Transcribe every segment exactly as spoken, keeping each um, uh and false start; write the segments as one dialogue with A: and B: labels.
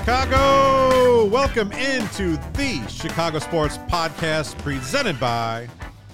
A: Chicago! Welcome into the Chicago Sports Podcast presented by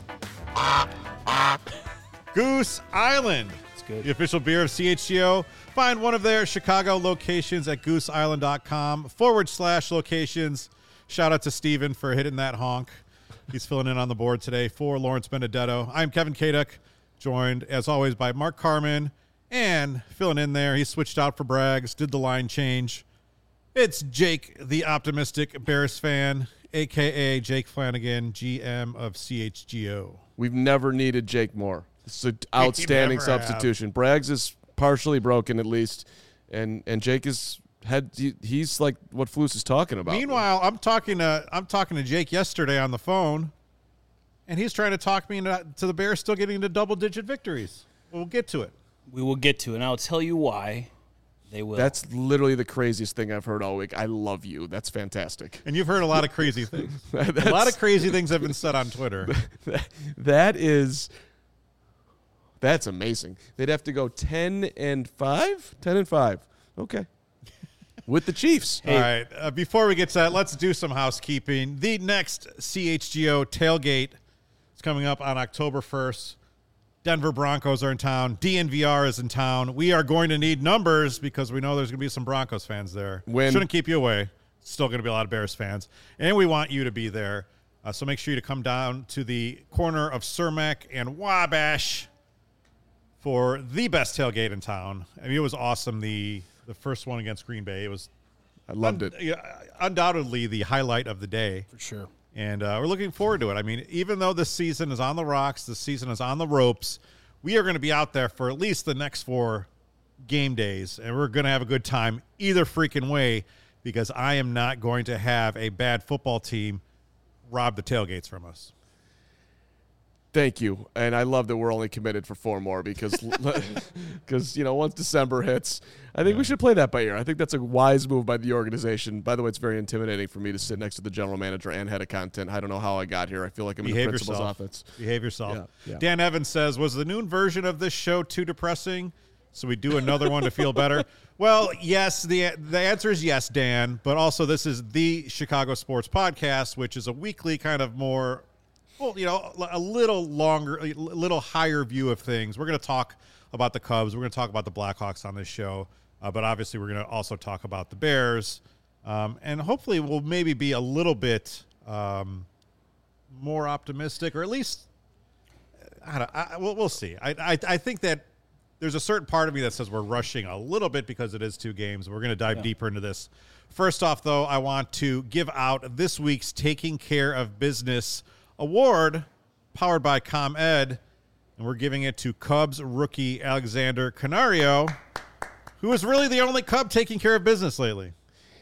A: Goose Island.
B: It's good.
A: The official beer of C H G O. Find one of their Chicago locations at gooseisland.com forward slash locations. Shout out to Steven for hitting that honk. He's filling in on the board today for Lawrence Benedetto. I'm Kevin Kaduk, joined as always by Mark Carman, and filling in there, he switched out for Braggs, did the line change. It's Jake, the optimistic Bears fan, a k a. Jake Flanagan, G M of C H G O.
C: We've never needed Jake more. It's an outstanding substitution. Have. Braggs is partially broken at least, and and Jake is had he, he's like what Flus is talking about.
A: Meanwhile, I'm talking to I'm talking to Jake yesterday on the phone, and he's trying to talk me into to the Bears still getting to double-digit victories. We'll get to it.
B: We will get to it, and I'll tell you why. They will.
C: That's literally the craziest thing I've heard all week. I love you. That's fantastic.
A: And you've heard a lot of crazy things. A lot of crazy things have been said on Twitter.
C: That is, that's amazing. They'd have to go ten and five? ten and five. Okay. With the Chiefs.
A: Hey. All right. Uh, before we get to that, let's do some housekeeping. The next C H G O tailgate is coming up on October first. Denver Broncos are in town. D N V R is in town. We are going to need numbers because we know there's going to be some Broncos fans there.
C: When,
A: Shouldn't keep you away. Still going to be a lot of Bears fans. And we want you to be there. Uh, so make sure you to come down to the corner of Cermak and Wabash for the best tailgate in town. I mean, it was awesome. The the first one against Green Bay. It was
C: I loved
A: un-
C: it.
A: Undoubtedly the highlight of the day.
B: For sure.
A: And uh, we're looking forward to it. I mean, even though this season is on the rocks, this season is on the ropes, we are going to be out there for at least the next four game days, and we're going to have a good time either freaking way because I am not going to have a bad football team rob the tailgates from us.
C: Thank you. And I love that we're only committed for four more because, because you know, once December hits, I think yeah. we should play that by ear. I think that's a wise move by the organization. By the way, it's very intimidating for me to sit next to the general manager and head of content. I don't know how I got here. I feel like I'm
A: Behave
C: in the principal's
A: yourself.
C: office.
A: Behave yourself.
C: Yeah, yeah.
A: Dan Evans says, was the noon version of this show too depressing? So we do another one to feel better? Well, yes, the the answer is yes, Dan. But also this is the Chicago Sports Podcast, which is a weekly kind of more – well, you know, a little longer, a little higher view of things. We're going to talk about the Cubs. We're going to talk about the Blackhawks on this show. Uh, but obviously, we're going to also talk about the Bears. Um, and hopefully, we'll maybe be a little bit um, more optimistic, or at least, I don't, I, we'll, we'll see. I, I I think that there's a certain part of me that says we're rushing a little bit because it is two games. We're going to dive yeah. deeper into this. First off, though, I want to give out this week's Taking Care of Business award powered by ComEd, and we're giving it to Cubs rookie Alexander Canario, who is really the only Cub taking care of business lately.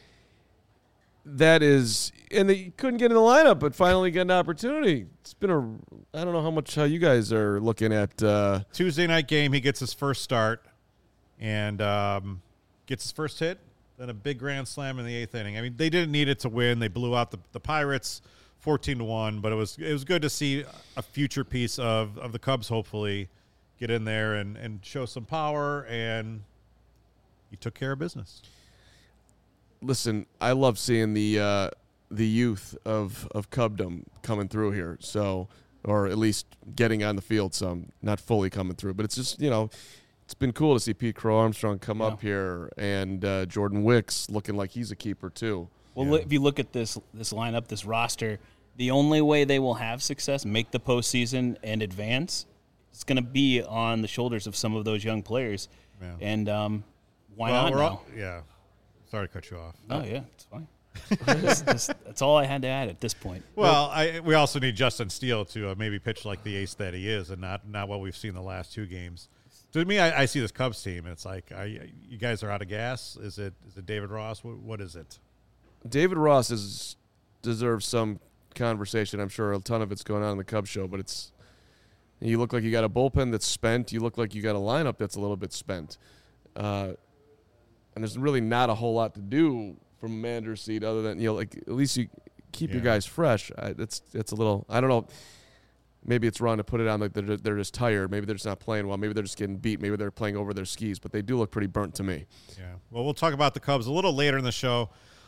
C: That is, and they couldn't get in the lineup, but finally got an opportunity. It's been a, I don't know how much how you guys are looking at. Uh,
A: Tuesday night game, he gets his first start and um, gets his first hit, then a big grand slam in the eighth inning. I mean, they didn't need it to win. They blew out the, the Pirates fourteen to one, but it was it was good to see a future piece of, of the Cubs hopefully get in there and, and show some power, and he took care of business.
C: Listen, I love seeing the uh, the youth of, of Cubdom coming through here, so or at least getting on the field some, not fully coming through, but it's just, you know, it's been cool to see Pete Crow Armstrong come yeah. up here and uh, Jordan Wicks looking like he's a keeper too.
B: Well, yeah. if you look at this this lineup, this roster, the only way they will have success, make the postseason, and advance, it's going to be on the shoulders of some of those young players. Yeah. And um, why
A: well,
B: not
A: we're
B: now?
A: All, yeah. Sorry to cut you off.
B: Oh, yeah, it's fine. that's, that's, that's all I had to add at this point.
A: Well, I, we also need Justin Steele to uh, maybe pitch like the ace that he is and not, not what we've seen the last two games. To me, I, I see this Cubs team, and it's like, I, you guys are out of gas? Is it is it David Ross? What, what is it?
C: David Ross is deserves some conversation. I'm sure a ton of it's going on in the Cubs show, but it's you look like you got a bullpen that's spent. You look like you got a lineup that's a little bit spent. Uh, and there's really not a whole lot to do from a manager's seat other than, you know, like at least you keep yeah. your guys fresh. I, that's that's a little, I don't know. Maybe it's wrong to put it on like they're, they're just tired. Maybe they're just not playing well. Maybe they're just getting beat. Maybe they're playing over their skis. But they do look pretty burnt to me.
A: Yeah. Well, we'll talk about the Cubs a little later in the show.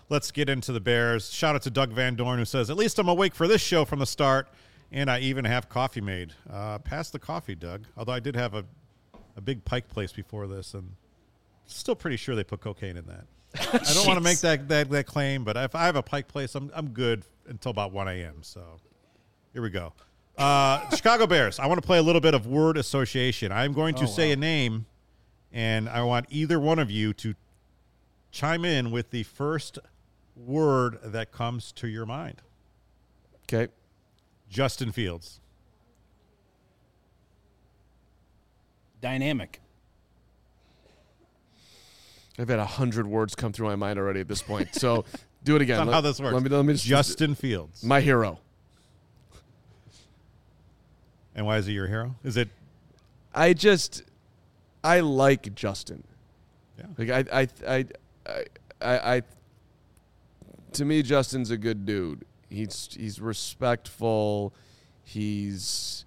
A: let's get into the Bears. Shout out to Doug Van Dorn, who says, at least I'm awake for this show from the start, and I even have coffee made. Uh, pass the coffee, Doug. Although I did have a, a big Pike place before this, and still pretty sure they put cocaine in that. I don't want to make that, that that claim, but if I have a Pike place, I'm I'm good until about one a.m. So here we go. Uh, Chicago Bears. I want to play a little bit of word association. I'm going to oh, say wow. a name, and I want either one of you to chime in with the first word that comes to your mind.
C: Okay.
A: Justin Fields.
B: Dynamic.
C: I've had a hundred words come through my mind already at this point. So do it again.
A: That's not how this works.
C: Let me, let me just,
A: Justin Fields.
C: My hero.
A: And why is he your hero? Is it?
C: I just, I like Justin.
A: Yeah.
C: Like I, I, I, I, I, I to me, Justin's a good dude. He's he's respectful. He's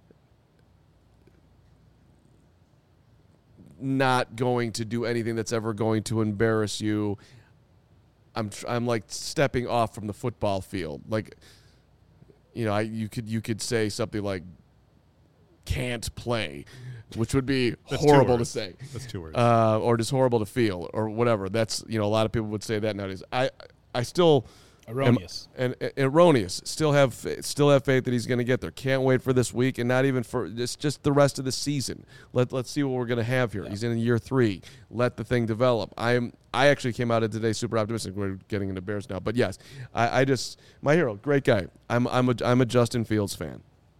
C: not going to do anything that's ever going to embarrass you. I'm I'm like stepping off from the football field. Like, you know, I you could you could say something like can't play, which would be that's horrible to say.
A: That's two words.
C: Uh, or just horrible to feel or whatever. That's, you know, a lot of people would say that nowadays. I I still
B: erroneous
C: am, and, and erroneous. Still have still have faith that he's going to get there. Can't wait for this week, and not even for just just the rest of the season. Let let's see what we're going to have here. Yeah. He's in year three. Let the thing develop. I'm I actually came out of today super optimistic. We're getting into Bears now, but yes, I, I just my hero, great guy. I'm I'm a I'm a Justin Fields fan.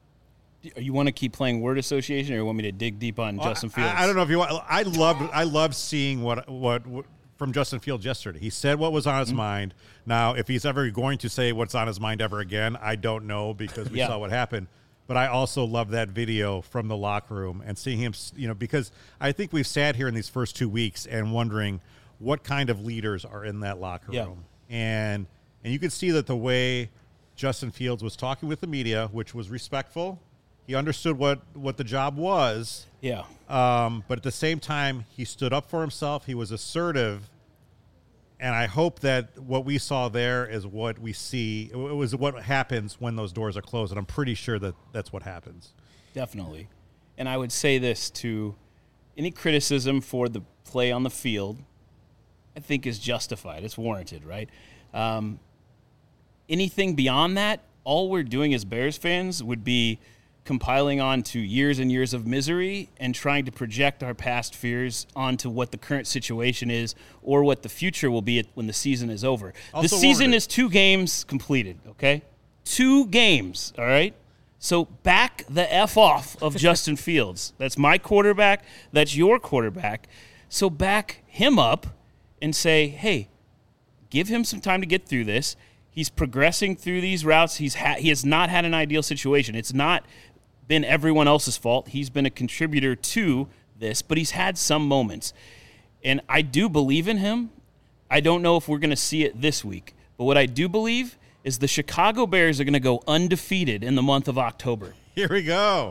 B: You want to keep playing word association, or you want me to dig deep on well, Justin Fields?
A: I, I don't know if you want. I loved I loved seeing what what. what from Justin Fields yesterday. He said what was on his mm-hmm. mind. Now, if he's ever going to say what's on his mind ever again, I don't know, because we yeah. saw what happened. But I also love that video from the locker room and seeing him, you know, because I think we've sat here in these first two weeks and wondering what kind of leaders are in that locker
B: yeah.
A: room. And and you could see that the way Justin Fields was talking with the media, which was respectful. He understood what, what the job was.
B: Yeah.
A: Um, but at the same time, he stood up for himself. He was assertive. And I hope that what we saw there is what we see. It was what happens when those doors are closed. And I'm pretty sure that that's what happens.
B: Definitely. And I would say this to any criticism for the play on the field, I think is justified. It's warranted, right? Um, anything beyond that, all we're doing as Bears fans would be compiling onto years and years of misery and trying to project our past fears onto what the current situation is or what the future will be when the season is over. The season is two games completed, okay? Two games, all right? So back the F off of Justin Fields. That's my quarterback. That's your quarterback. So back him up and say, hey, give him some time to get through this. He's progressing through these routes. He's ha- he has not had an ideal situation. It's not been everyone else's fault. He's been a contributor to this, but he's had some moments. And I do believe in him. I don't know if we're going to see it this week, but what I do believe is the Chicago Bears are going to go undefeated in the month of October.
A: Here we go.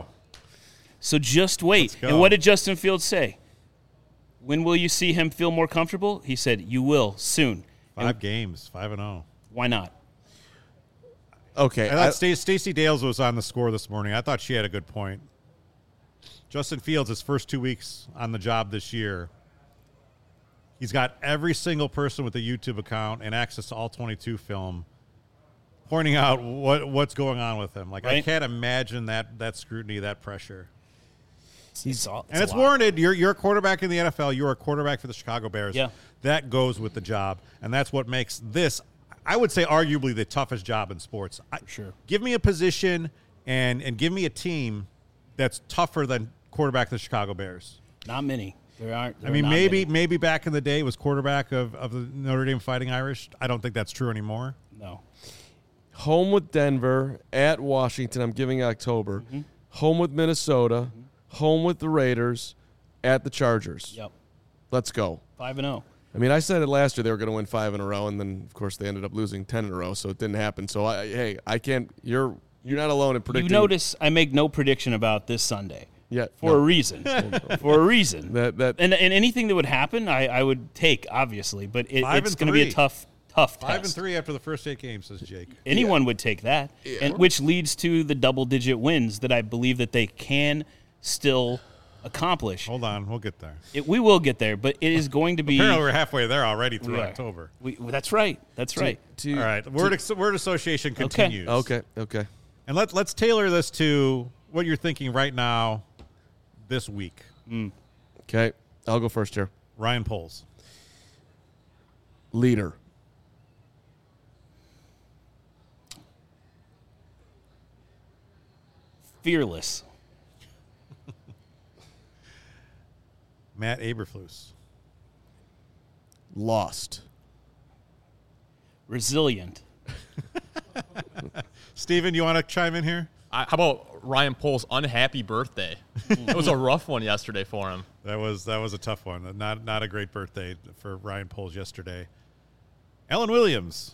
B: So just wait. And what did Justin Fields say? When will you see him feel more comfortable? He said, you will soon.
A: Five
B: and
A: games, five and oh.
B: Why not?
C: Okay.
A: I thought I, Stacey Dales was on the score this morning. I thought she had a good point. Justin Fields, his first two weeks on the job this year, he's got every single person with a YouTube account and access to all twenty-two film pointing out what what's going on with him. Like, right? I can't imagine that that scrutiny, that pressure.
B: He's all, it's
A: and it's warranted. You're, you're a quarterback in the N F L. You're a quarterback for the Chicago Bears.
B: Yeah.
A: That goes with the job, and that's what makes this, I would say, arguably the toughest job in sports. I,
B: sure.
A: Give me a position and and give me a team that's tougher than quarterback of the Chicago Bears.
B: Not many. There aren't. There
A: I mean,
B: are
A: maybe
B: many.
A: maybe back in the day it was quarterback of, of the Notre Dame Fighting Irish. I don't think that's true anymore.
B: No.
C: Home with Denver, at Washington, I'm giving October. Mm-hmm. Home with Minnesota, mm-hmm. home with the Raiders, at the Chargers.
B: Yep.
C: Let's go.
B: five and oh.
C: I mean, I said it last year they were going to win five in a row, and then, of course, they ended up losing ten in a row, so it didn't happen. So, I, hey, I can't – you're you're not alone in predicting.
B: You notice I make no prediction about this Sunday.
C: Yeah.
B: For
C: no.
B: a reason. For a reason.
C: That, that,
B: and and anything that would happen, I, I would take, obviously, but it, it's going to be a tough, tough
A: Five and
B: test.
A: three after the first eight games, says Jake.
B: Anyone yeah. would take that, yeah. and which leads to the double-digit wins that I believe that they can still accomplish.
A: Hold on, we'll get there.
B: It, we will get there, but it is going to be.
A: Apparently, we're halfway there already through
B: we
A: October.
B: We, that's right. That's
C: to,
B: right.
C: To,
A: All right, word to, word association continues.
C: Okay. Okay. Okay.
A: And let's let's tailor this to what you're thinking right now, this week.
B: Mm.
C: Okay, I'll go first here.
A: Ryan Poles.
C: Leader.
B: Fearless.
A: Matt Eberflus.
C: Lost.
B: Resilient.
A: Steven, you want to chime in here?
D: I, how about Ryan Poles' unhappy birthday? It was a rough one yesterday for him.
A: That was that was a tough one. Not not a great birthday for Ryan Poles yesterday. Alan Williams.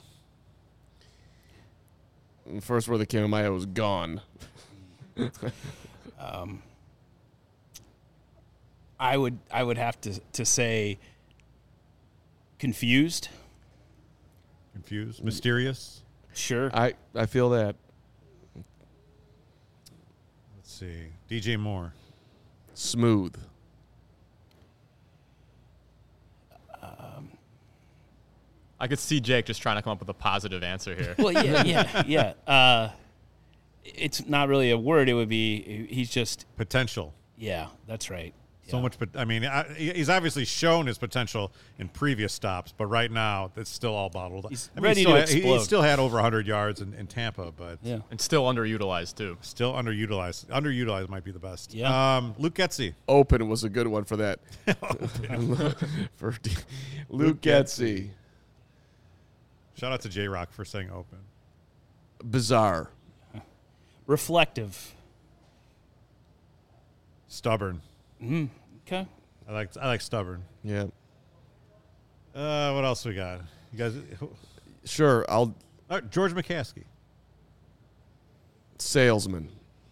C: The first word that came in my head was gone.
B: um, I would I would have to to say confused.
A: Confused, mysterious.
B: Sure.
C: I, I feel that.
A: Let's see. D J Moore.
C: Smooth.
B: Um,
D: I could see Jake just trying to come up with a positive answer here.
B: Well, yeah, yeah, yeah. Uh, it's not really a word. It would be he's just
A: potential.
B: Yeah, that's right.
A: So
B: yeah.
A: much, but I mean, I, he's obviously shown his potential in previous stops, but right now it's still all bottled.
B: He's
A: I mean,
B: ready
A: he still,
B: to
A: had, he,
B: explode.
A: he still had over one hundred yards in, in Tampa, but
B: yeah,
D: and still underutilized too.
A: Still underutilized. Underutilized might be the best.
B: Yeah.
A: Um, Luke Getsy.
C: Open was a good one for that. for D- Luke Getsy.
A: Shout out to J Rock for saying open.
C: Bizarre.
B: Reflective.
A: Stubborn.
B: Mm, okay.
A: I like I like stubborn.
C: Yeah.
A: Uh, what else we got? You guys.
C: Sure, I'll.
A: Uh, George McCaskey.
C: Salesman.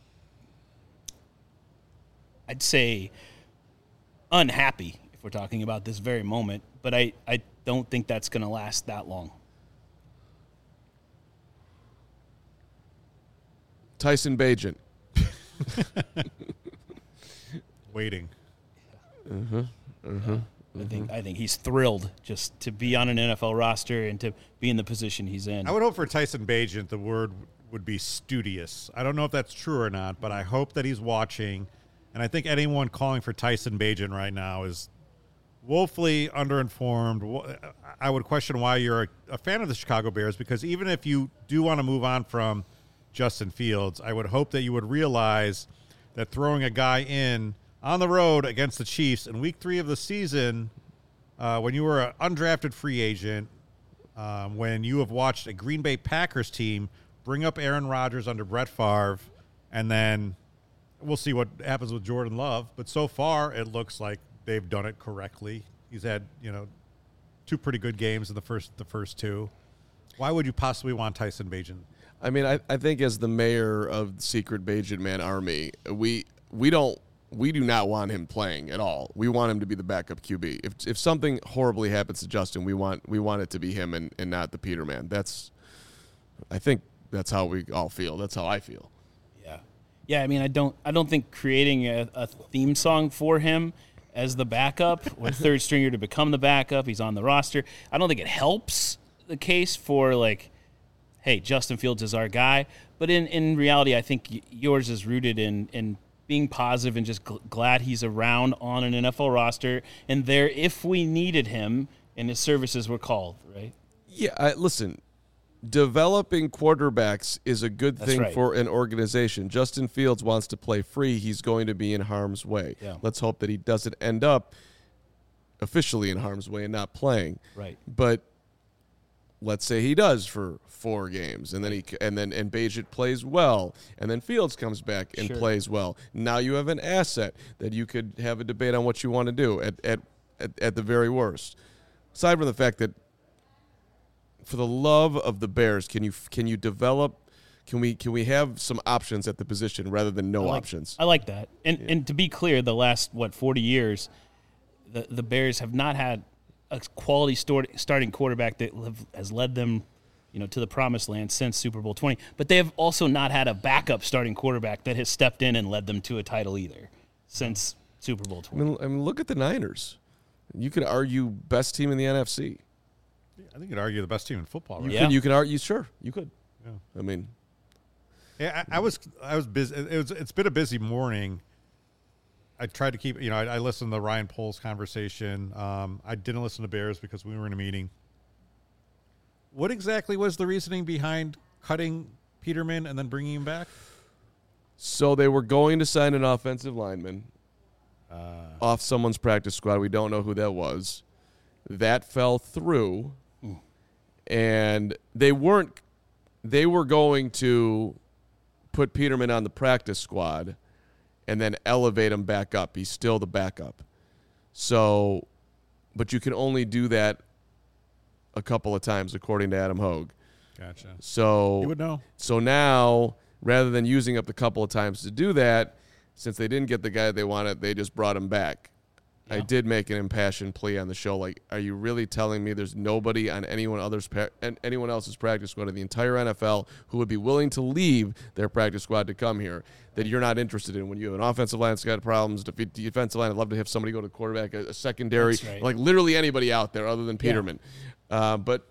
B: I'd say unhappy if we're talking about this very moment, but I, I don't think that's going to last that long.
C: Tyson Bagent.
A: Waiting.
C: Uh-huh. Uh-huh.
B: I think I think he's thrilled just to be on an N F L roster and to be in the position he's in.
A: I would hope for Tyson Bagent the word would be studious. I don't know if that's true or not, but I hope that he's watching. And I think anyone calling for Tyson Bagent right now is woefully underinformed. I would question why you're a, a fan of the Chicago Bears, because even if you do want to move on from Justin Fields, I would hope that you would realize that throwing a guy in on the road against the Chiefs in week three of the season, uh, when you were an undrafted free agent, um, when you have watched a Green Bay Packers team bring up Aaron Rodgers under Brett Favre, and then we'll see what happens with Jordan Love. But so far, it looks like they've done it correctly. He's had, you know, two pretty good games in the first the first two. Why would you possibly want Tyson Bagent?
C: I mean, I, I think as the mayor of the Secret Bagent Man Army, we we don't we do not want him playing at all. We want him to be the backup Q B. If if something horribly happens to Justin, we want we want it to be him and, and not the Peterman. That's I think that's how we all feel. That's how I feel.
B: Yeah. Yeah, I mean, I don't I don't think creating a, a theme song for him as the backup or third stringer to become the backup, he's on the roster, I don't think it helps the case for, like, hey, Justin Fields is our guy. But in, in reality, I think yours is rooted in, in being positive and just gl- glad he's around on an N F L roster and there if we needed him and his services were called, right?
C: Yeah, I, listen, developing quarterbacks is a good
B: That's
C: thing
B: right.
C: for an organization. Justin Fields wants to play free. He's going to be in harm's way.
B: Yeah.
C: Let's hope that he doesn't end up officially in harm's way and not playing.
B: Right.
C: But let's say he does for four games, and then he and then and Bagent plays well, and then Fields comes back and
B: Sure.
C: plays well. Now you have an asset that you could have a debate on what you want to do at at, at, at the very worst. Aside from the fact that, for the love of the Bears, can you can you develop? Can we can we have some options at the position rather than no
B: I like,
C: options?
B: I like that. And and to be clear, the last what forty years, the the Bears have not had a quality start, starting quarterback that have, has led them, you know, to the promised land since Super Bowl twenty. But they have also not had a backup starting quarterback that has stepped in and led them to a title either since Super Bowl twenty.
C: I mean, I mean, look at the Niners. You could argue best team in the N F C.
A: I think you'd argue the best team in football. Right?
C: You
B: Yeah.
C: could, you could argue, sure, you could.
A: Yeah.
C: I mean,
A: Yeah, I, I was I was busy. It was it's been a busy morning. I tried to keep you know I, I listened to the Ryan Poles conversation. Um, I didn't listen to Bears because we were in a meeting. What exactly was the reasoning behind cutting Peterman and then bringing him back?
C: so they were going to sign an offensive lineman
A: Uh,
C: off someone's practice squad. We don't know who that was. That fell through, and they weren't. They were going to put Peterman on the practice squad and then elevate him back up. He's still the backup. So, but you can only do that a couple of times, according to Adam Hogue.
A: gotcha.
C: So
A: You would know.
C: So now, rather than using up the couple of times to do that, since they didn't get the guy they wanted, they just brought him back. I
B: Yeah.
C: did make an impassioned plea on the show. Like, are you really telling me there's nobody on anyone other's pra- and anyone else's practice squad in the entire N F L who would be willing to leave their practice squad to come here that you're not interested in? When you have an offensive line that's got problems, def- defensive line, I'd love to have somebody go to quarterback, a, a secondary,
B: That's right.
C: like literally anybody out there other than Peterman. Uh, but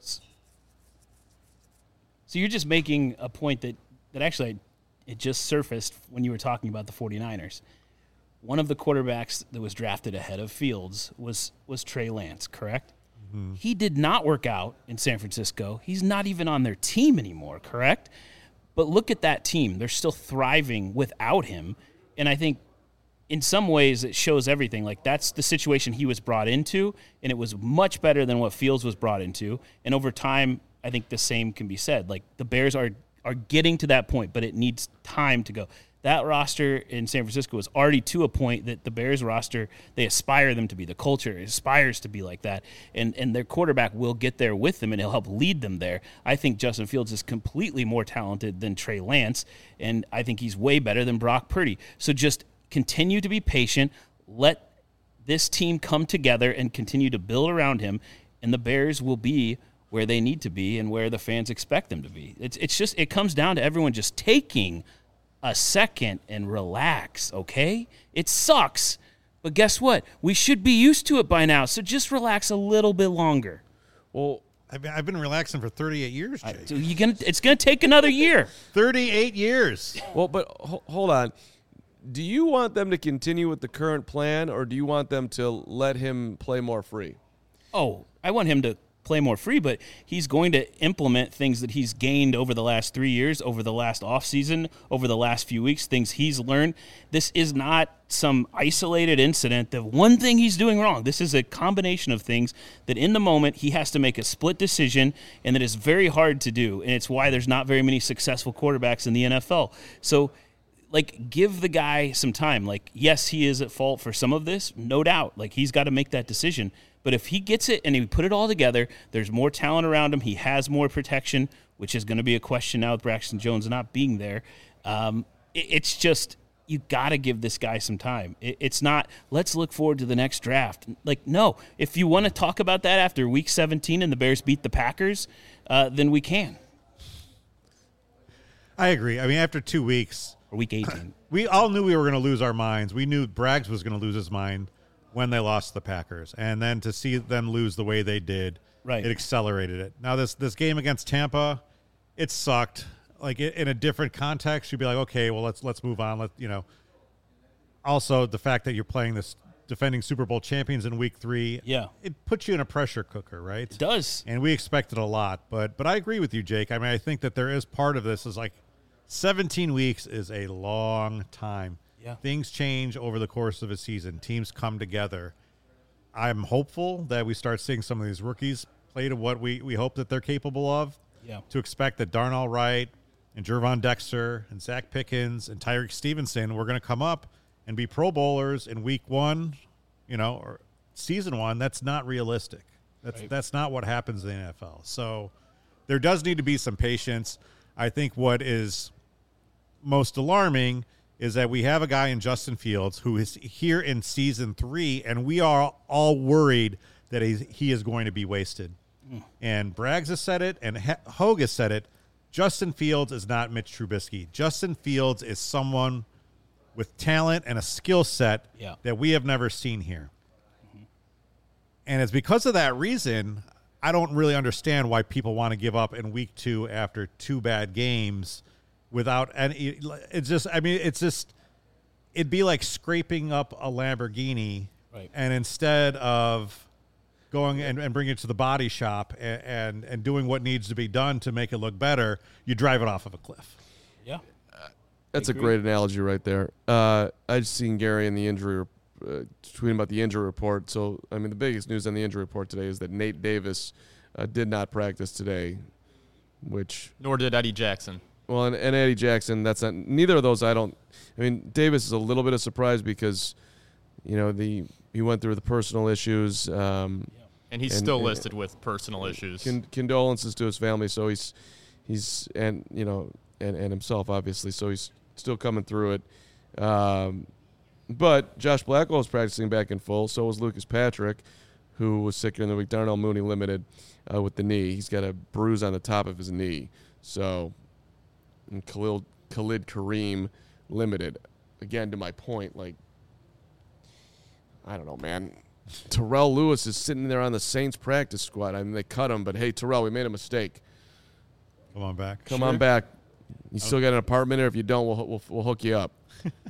B: So you're just making a point that, that actually it just surfaced when you were talking about the 49ers. One of the quarterbacks that was drafted ahead of Fields was was Trey Lance, correct? Mm-hmm. He did not work out in San Francisco. He's not even on their team anymore, correct? But look at that team. They're still thriving without him. And I think in some ways it shows everything. Like, that's the situation he was brought into, and it was much better than what Fields was brought into. And over time, I think the same can be said. Like, the Bears are are getting to that point, but it needs time to go. That roster in San Francisco is already to a point that the Bears roster, they aspire them to be. The culture aspires to be like that, and and their quarterback will get there with them, and he'll help lead them there. I think Justin Fields is completely more talented than Trey Lance, and I think he's way better than Brock Purdy. So just continue to be patient. Let this team come together and continue to build around him, and the Bears will be where they need to be and where the fans expect them to be. It's it's just it comes down to everyone just taking a second and relax, okay? It sucks, but guess what? We should be used to it by now, so just relax a little bit longer.
C: well,
A: I've been, I've been relaxing for thirty-eight years, Jake.
B: So you gonna it's gonna take another year.
A: thirty-eight years.
C: Well, but ho- hold on. Do you want them to continue with the current plan, or do you want them to let him play more free?
B: Oh, I want him to play more free, but he's going to implement things that he's gained over the last three years, over the last offseason, over the last few weeks, things he's learned. This is not some isolated incident, the one thing he's doing wrong. This is a combination of things that in the moment he has to make a split decision, and that is very hard to do, and it's why there's not very many successful quarterbacks in the N F L. So, like, give the guy some time. Like, yes, he is at fault for some of this, no doubt. Like, he's got to make that decision. But if he gets it and he put it all together, there's more talent around him. He has more protection, which is going to be a question now with Braxton Jones not being there. Um, it, it's just, you got to give this guy some time. It, it's not, let's look forward to the next draft. Like, no. If you want to talk about that after week seventeen and the Bears beat the Packers, uh, then we can.
A: I agree. I mean, after two weeks,
B: Or week eighteen.
A: we all knew we were going to lose our minds. We knew Braggs was going to lose his mind when they lost the Packers. And then to see them lose the way they did,
B: Right.
A: it accelerated it. Now, this this game against Tampa, it sucked. Like, it, in a different context, you'd be like, okay, well, let's let's move on. Let you know. Also, the fact that you're playing this defending Super Bowl champions in week three,
B: Yeah.
A: it puts you in a pressure cooker, right?
B: It does.
A: And we expected a lot. But but I agree with you, Jake. I mean, I think that there is part of this is like seventeen weeks is a long time.
B: Yeah.
A: Things change over the course of a season. Teams come together. I'm hopeful that we start seeing some of these rookies play to what we, we hope that they're capable of.
B: Yeah.
A: To expect that Darnell Wright and Jervon Dexter and Zach Pickens and Tyreek Stevenson were going to come up and be Pro Bowlers in week one, you know, or season one. That's not realistic. That's
B: Right.
A: that's not what happens in the N F L. So there does need to be some patience. I think what is most alarming is that we have a guy in Justin Fields who is here in season three, and we are all worried that he's, he is going to be wasted. Mm. And Braggs has said it, and Hogue has said it. Justin Fields is not Mitch Trubisky. Justin Fields is someone with talent and a skill set
B: yeah.
A: that we have never seen here. Mm-hmm. And it's because of that reason, I don't really understand why people want to give up in week two after two bad games without any. It's just, I mean, it's just, it'd be like scraping up a Lamborghini,
B: right.
A: and instead of going and, and bringing it to the body shop and, and, and doing what needs to be done to make it look better, you drive it off of a cliff.
B: Yeah.
C: That's a great analogy right there. Uh, I just seen Gary in the injury uh, tweeting about the injury report. So, I mean, the biggest news on the injury report today is that Nate Davis uh, did not practice today, which
D: nor did Eddie Jackson.
C: Well, and, and Eddie Jackson, that's not neither of those. I don't. I mean, Davis is a little bit of surprise because, you know, the he went through the personal issues. Um,
D: And he's
C: and,
D: still
C: and,
D: listed with personal issues.
C: Con- condolences to his family. So he's, he's, and you know, and, and himself obviously. So he's still coming through it. Um, but Josh Blackwell is practicing back in full. So was Lucas Patrick, who was sick during the week. Darnell Mooney limited uh, with the knee. He's got a bruise on the top of his knee. So, and Khalil Khalid Kareem limited. Again, to my point, like, I don't know, man. Terrell Lewis is sitting there on the Saints practice squad. I mean, they cut him, but hey, Terrell, we made a mistake.
A: Come on back.
C: Come
A: sure.
C: on back. You okay. still got an apartment, or if you don't, we'll we'll, we'll hook you up.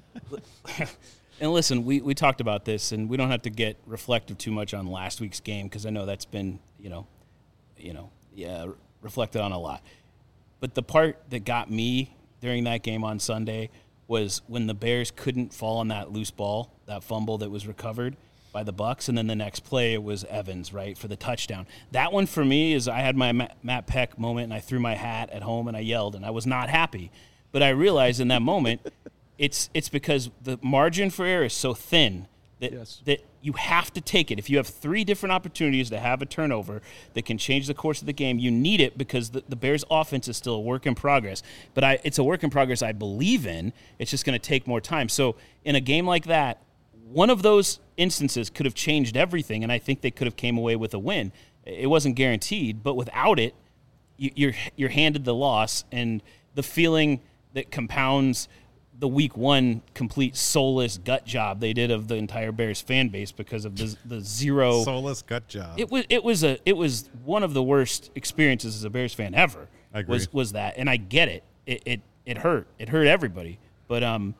B: And listen, we, we talked about this, and we don't have to get reflective too much on last week's game because I know that's been, you know, you know, yeah, reflected on a lot. But the part that got me during that game on Sunday was when the Bears couldn't fall on that loose ball, that fumble that was recovered by the Bucs, and then the next play it was Evans, right, for the touchdown. That one for me is I had my Matt Peck moment, and I threw my hat at home and I yelled, and I was not happy. But I realized in that moment it's it's because the margin for error is so thin that
C: yes.
B: that you have to take it. If you have three different opportunities to have a turnover that can change the course of the game, you need it because the, the Bears' offense is still a work in progress. But I, it's a work in progress I believe in. It's just going to take more time. So in a game like that, one of those instances could have changed everything, and I think they could have came away with a win. It wasn't guaranteed, but without it, you, you're you're handed the loss, and the feeling that compounds the week one complete soulless gut job they did of the entire Bears fan base because of the the zero
A: soulless gut job.
B: It was it was a it was one of the worst experiences as a Bears fan ever.
A: I agree.
B: Was was that, and I get it. It it it hurt. It hurt everybody. But um,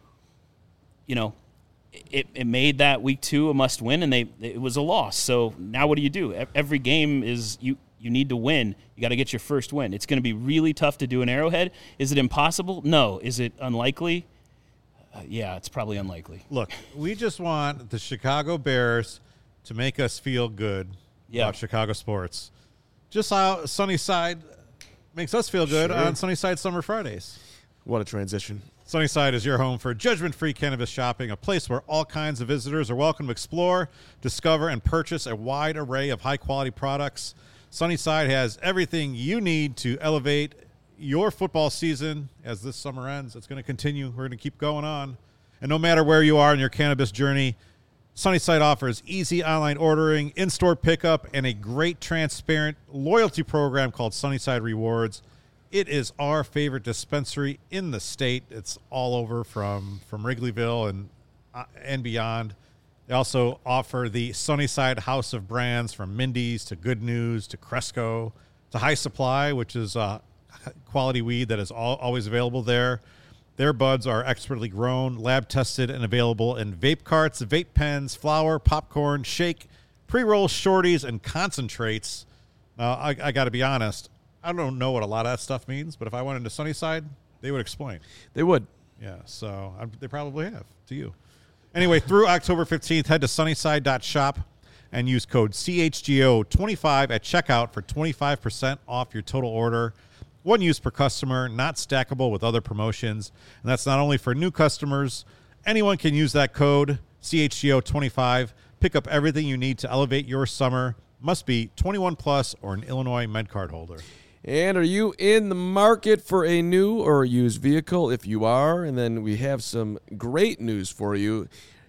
B: you know. It, it made that week two a must win, and they it was a loss. So now what do you do? Every game is you you need to win. You got to get your first win. It's going to be really tough to do in Arrowhead. Is it impossible? No. Is it unlikely? Uh, yeah, it's probably unlikely.
A: Look, we just want the Chicago Bears to make us feel good
B: yeah.
A: about Chicago sports. Just how Sunnyside makes us feel good
C: sure.
A: on Sunnyside Summer Fridays.
C: What a transition.
A: Sunnyside is your home for judgment-free cannabis shopping, a place where all kinds of visitors are welcome to explore, discover, and purchase a wide array of high-quality products. Sunnyside has everything you need to elevate your football season. As this summer ends, it's going to continue. We're going to keep going on. And no matter where you are in your cannabis journey, Sunnyside offers easy online ordering, in-store pickup, and a great transparent loyalty program called Sunnyside Rewards. It is our favorite dispensary in the state. It's all over from, from Wrigleyville and uh, and beyond. They also offer the Sunnyside House of Brands from Mindy's to Good News to Cresco to High Supply, which is uh, quality weed that is all, always available there. Their buds are expertly grown, lab-tested, and available in vape carts, vape pens, flour, popcorn, shake, pre-roll shorties, and concentrates. Now, I, I got to be honest. I don't know what a lot of that stuff means, but if I went into Sunnyside, they would explain.
C: They would.
A: Yeah, so I, they probably have to you. Anyway, through October fifteenth, head to sunnyside dot shop and use code C H G O twenty-five at checkout for twenty-five percent off your total order. One use per customer, not stackable with other promotions. And that's not only for new customers. Anyone can use that code C H G O twenty-five. Pick up everything you need to elevate your summer. Must be twenty-one plus or an Illinois MedCard holder.
C: And are you in the market for a new or used vehicle? If you are, and then we have some great news for you.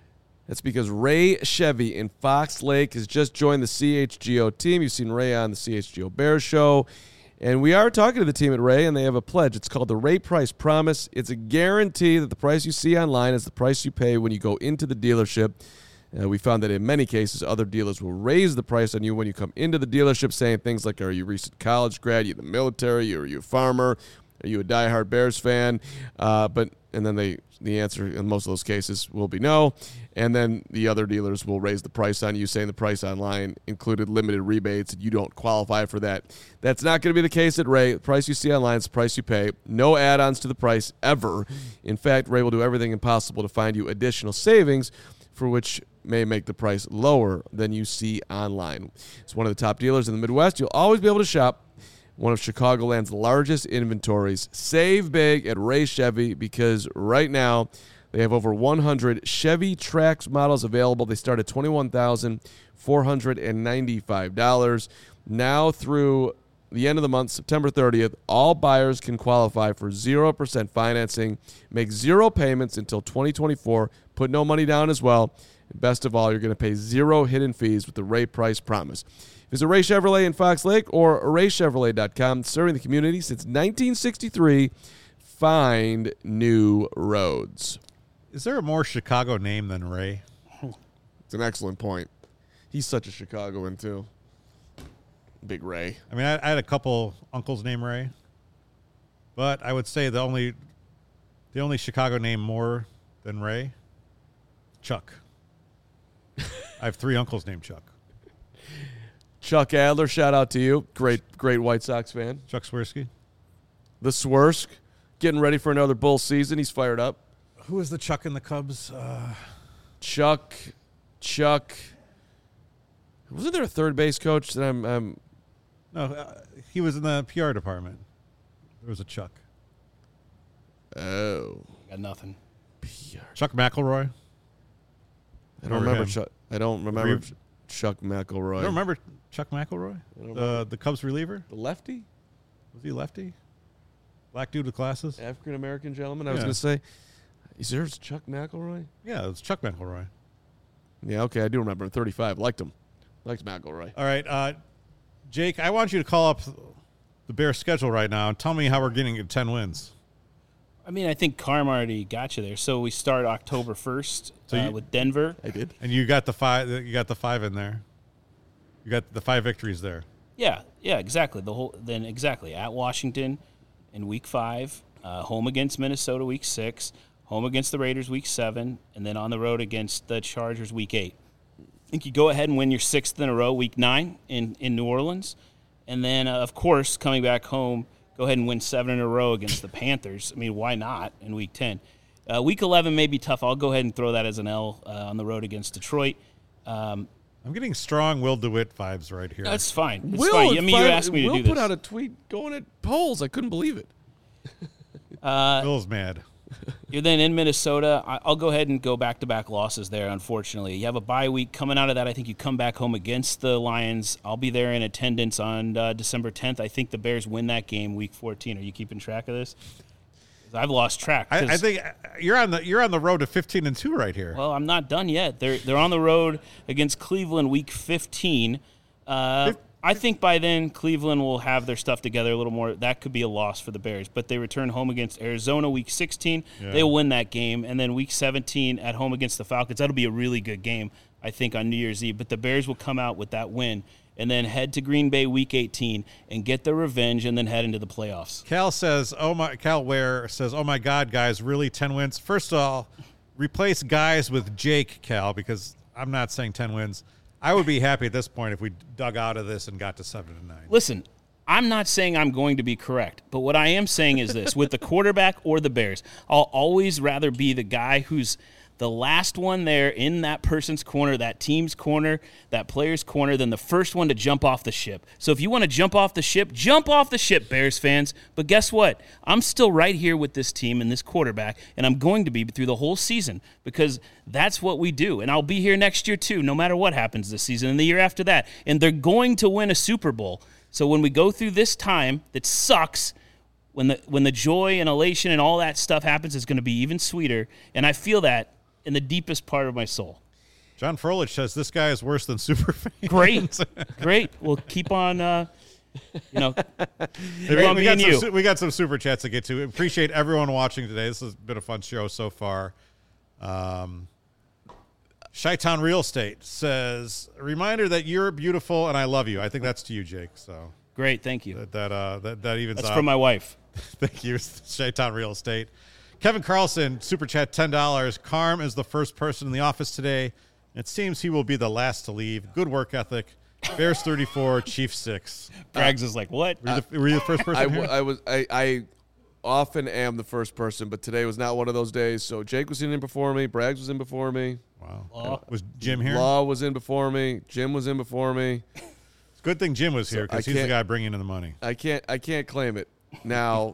C: That's because Ray Chevy in Fox Lake has just joined the C H G O team. You've seen Ray on the C H G O Bears show. And we are talking to the team at Ray, and they have a pledge. It's called the Ray Price Promise. It's a guarantee that the price you see online is the price you pay when you go into the dealership. Uh, we found that in many cases, other dealers will raise the price on you when you come into the dealership, saying things like, are you a recent college grad, are you in the military, are you a farmer, are you a diehard Bears fan? Uh, but and then they the answer in most of those cases will be no. And then the other dealers will raise the price on you, saying the price online included limited rebates and you don't qualify for that. That's not going to be the case at Ray. The price you see online is the price you pay. No add-ons to the price ever. In fact, Ray will do everything impossible to find you additional savings, for which may make the price lower than you see online. It's one of the top dealers in the Midwest. You'll always be able to shop one of Chicagoland's largest inventories. Save big at Ray Chevy, because right now they have over one hundred Chevy Trax models available. They start at twenty-one thousand four hundred ninety-five dollars. Now through the end of the month, September thirtieth, all buyers can qualify for zero percent financing, make zero payments until twenty twenty-four, put no money down as well. And best of all, you're going to pay zero hidden fees with the Ray Price Promise. Visit Ray Chevrolet in Fox Lake or ray chevrolet dot com. Serving the community since nineteen sixty-three. Find new roads.
A: Is there a more Chicago name than Ray?
C: It's an excellent point. He's such a Chicagoan, too. Big Ray.
A: I mean, I, I had a couple uncles named Ray, but I would say the only the only Chicago name more than Ray, Chuck. I have three uncles named Chuck.
C: Chuck Adler, shout out to you. Great, great White Sox fan.
A: Chuck Swirsky.
C: The Swersk, getting ready for another Bull season. He's fired up.
A: Who is the Chuck in the Cubs? Uh,
C: Chuck, Chuck. Wasn't there a third base coach that I'm... I'm
A: no, uh, he was in the P R department. There was a Chuck.
C: Oh.
B: Got nothing.
C: P R.
A: Chuck McElroy.
C: I don't remember Chuck. I don't remember
A: Re-
C: Chuck McElroy.
A: You don't remember Chuck McElroy? Uh, the Cubs reliever?
C: The lefty?
A: Was he lefty? Black dude with glasses?
C: African American gentleman. I
A: Yeah.
C: was going to say, is there Chuck McElroy?
A: Yeah, it was Chuck McElroy.
C: Yeah, okay, I do remember him. thirty-five. Liked him. Liked McElroy.
A: All right, uh, Jake, I want you to call up the Bears' schedule right now and tell me how we're getting to ten wins.
B: I mean, I think Carm already got you there. So we start October first
A: So
B: uh,
A: you-
B: with Denver.
C: I did.
A: And you got the five. You got the five in there. You got the five victories there.
B: Yeah, yeah, exactly. The whole then exactly at Washington in week five, uh, home against Minnesota week six, home against the Raiders week seven, and then on the road against the Chargers week eight. I think you go ahead and win your sixth in a row week nine in, in New Orleans, and then uh, of course coming back home, go ahead and win seven in a row against the Panthers. I mean, why not in week ten? Uh, week eleven may be tough. I'll go ahead and throw that as an L uh, on the road against Detroit. Um,
A: I'm getting strong Will DeWitt vibes right here.
B: that's fine. It's
C: Will,
B: fine. I mean,
C: five,
B: you asked me
C: Will
B: to do
C: put
B: this.
C: out a tweet going at polls. I couldn't believe it.
B: Uh,
A: Will's mad.
B: You're then in Minnesota. I- I'll go ahead and go back-to-back losses there, unfortunately. You have a bye week. Coming out of that, I think you come back home against the Lions. I'll be there in attendance on uh, December tenth. I think the Bears win that game week fourteen. Are you keeping track of this? 'Cause I've lost track.
A: I,
B: 'cause-
A: I think you're on the you're on the road to fifteen and two right here.
B: Well, I'm not done yet. They're they're on the road against Cleveland week fifteen. Uh, I think by then Cleveland will have their stuff together a little more. That could be a loss for the Bears, but they return home against Arizona week sixteen.
A: Yeah.
B: They'll win that game, and then week seventeen at home against the Falcons. That'll be a really good game, I think, on New Year's Eve. But the Bears will come out with that win, and then head to Green Bay week eighteen and get their revenge, and then head into the playoffs.
A: Cal says, "Oh my!" Cal Ware says, "Oh my God, guys, really ten wins." First of all, replace guys with Jake, Cal, because I'm not saying ten wins. I would be happy at this point if we dug out of this and got to seven and nine.
B: Listen, I'm not saying I'm going to be correct, but what I am saying is this. With the quarterback or the Bears, I'll always rather be the guy who's the last one there in that person's corner, that team's corner, that player's corner, than the first one to jump off the ship. So if you want to jump off the ship, jump off the ship, Bears fans. But guess what? I'm still right here with this team and this quarterback, and I'm going to be through the whole season because that's what we do. And I'll be here next year too, no matter what happens this season and the year after that. And they're going to win a Super Bowl. So when we go through this time that sucks, when the when the joy and elation and all that stuff happens, it's going to be even sweeter. And I feel that in the deepest part of my soul.
A: John Froelich says this guy is worse than Superfan.
B: Great, great. We'll keep on. Uh, you know,
A: we,
B: on
A: we,
B: me
A: got
B: and
A: some,
B: you.
A: su- we got some super chats to get to. Appreciate everyone watching today. This has been a fun show so far. Um, Chi-Town Real Estate says, a reminder that you're beautiful and I love you. I think that's to you, Jake. So
B: Great, thank you.
A: that that uh, that, that evens
B: That's
A: out.
B: from my wife.
A: Thank you, Chi-Town Real Estate. Kevin Carlson, super chat, ten dollars. Carm is the first person in the office today. It seems he will be the last to leave. Good work ethic. Bears thirty-four, Chiefs six.
B: Braggs is like, what?
A: Were you, the, were you the first person
C: I,
A: here?
C: w- I was I, I often am the first person, but today was not one of those days. So Jake was in before me, Braggs was in before me,
A: Wow.
B: Law.
A: Was Jim here?
C: Law was in before me, Jim was in before me.
A: It's a good thing Jim was here
C: I
A: because he's the
C: can't-
A: guy bringing in the money.
C: I can't I can't claim it. Now,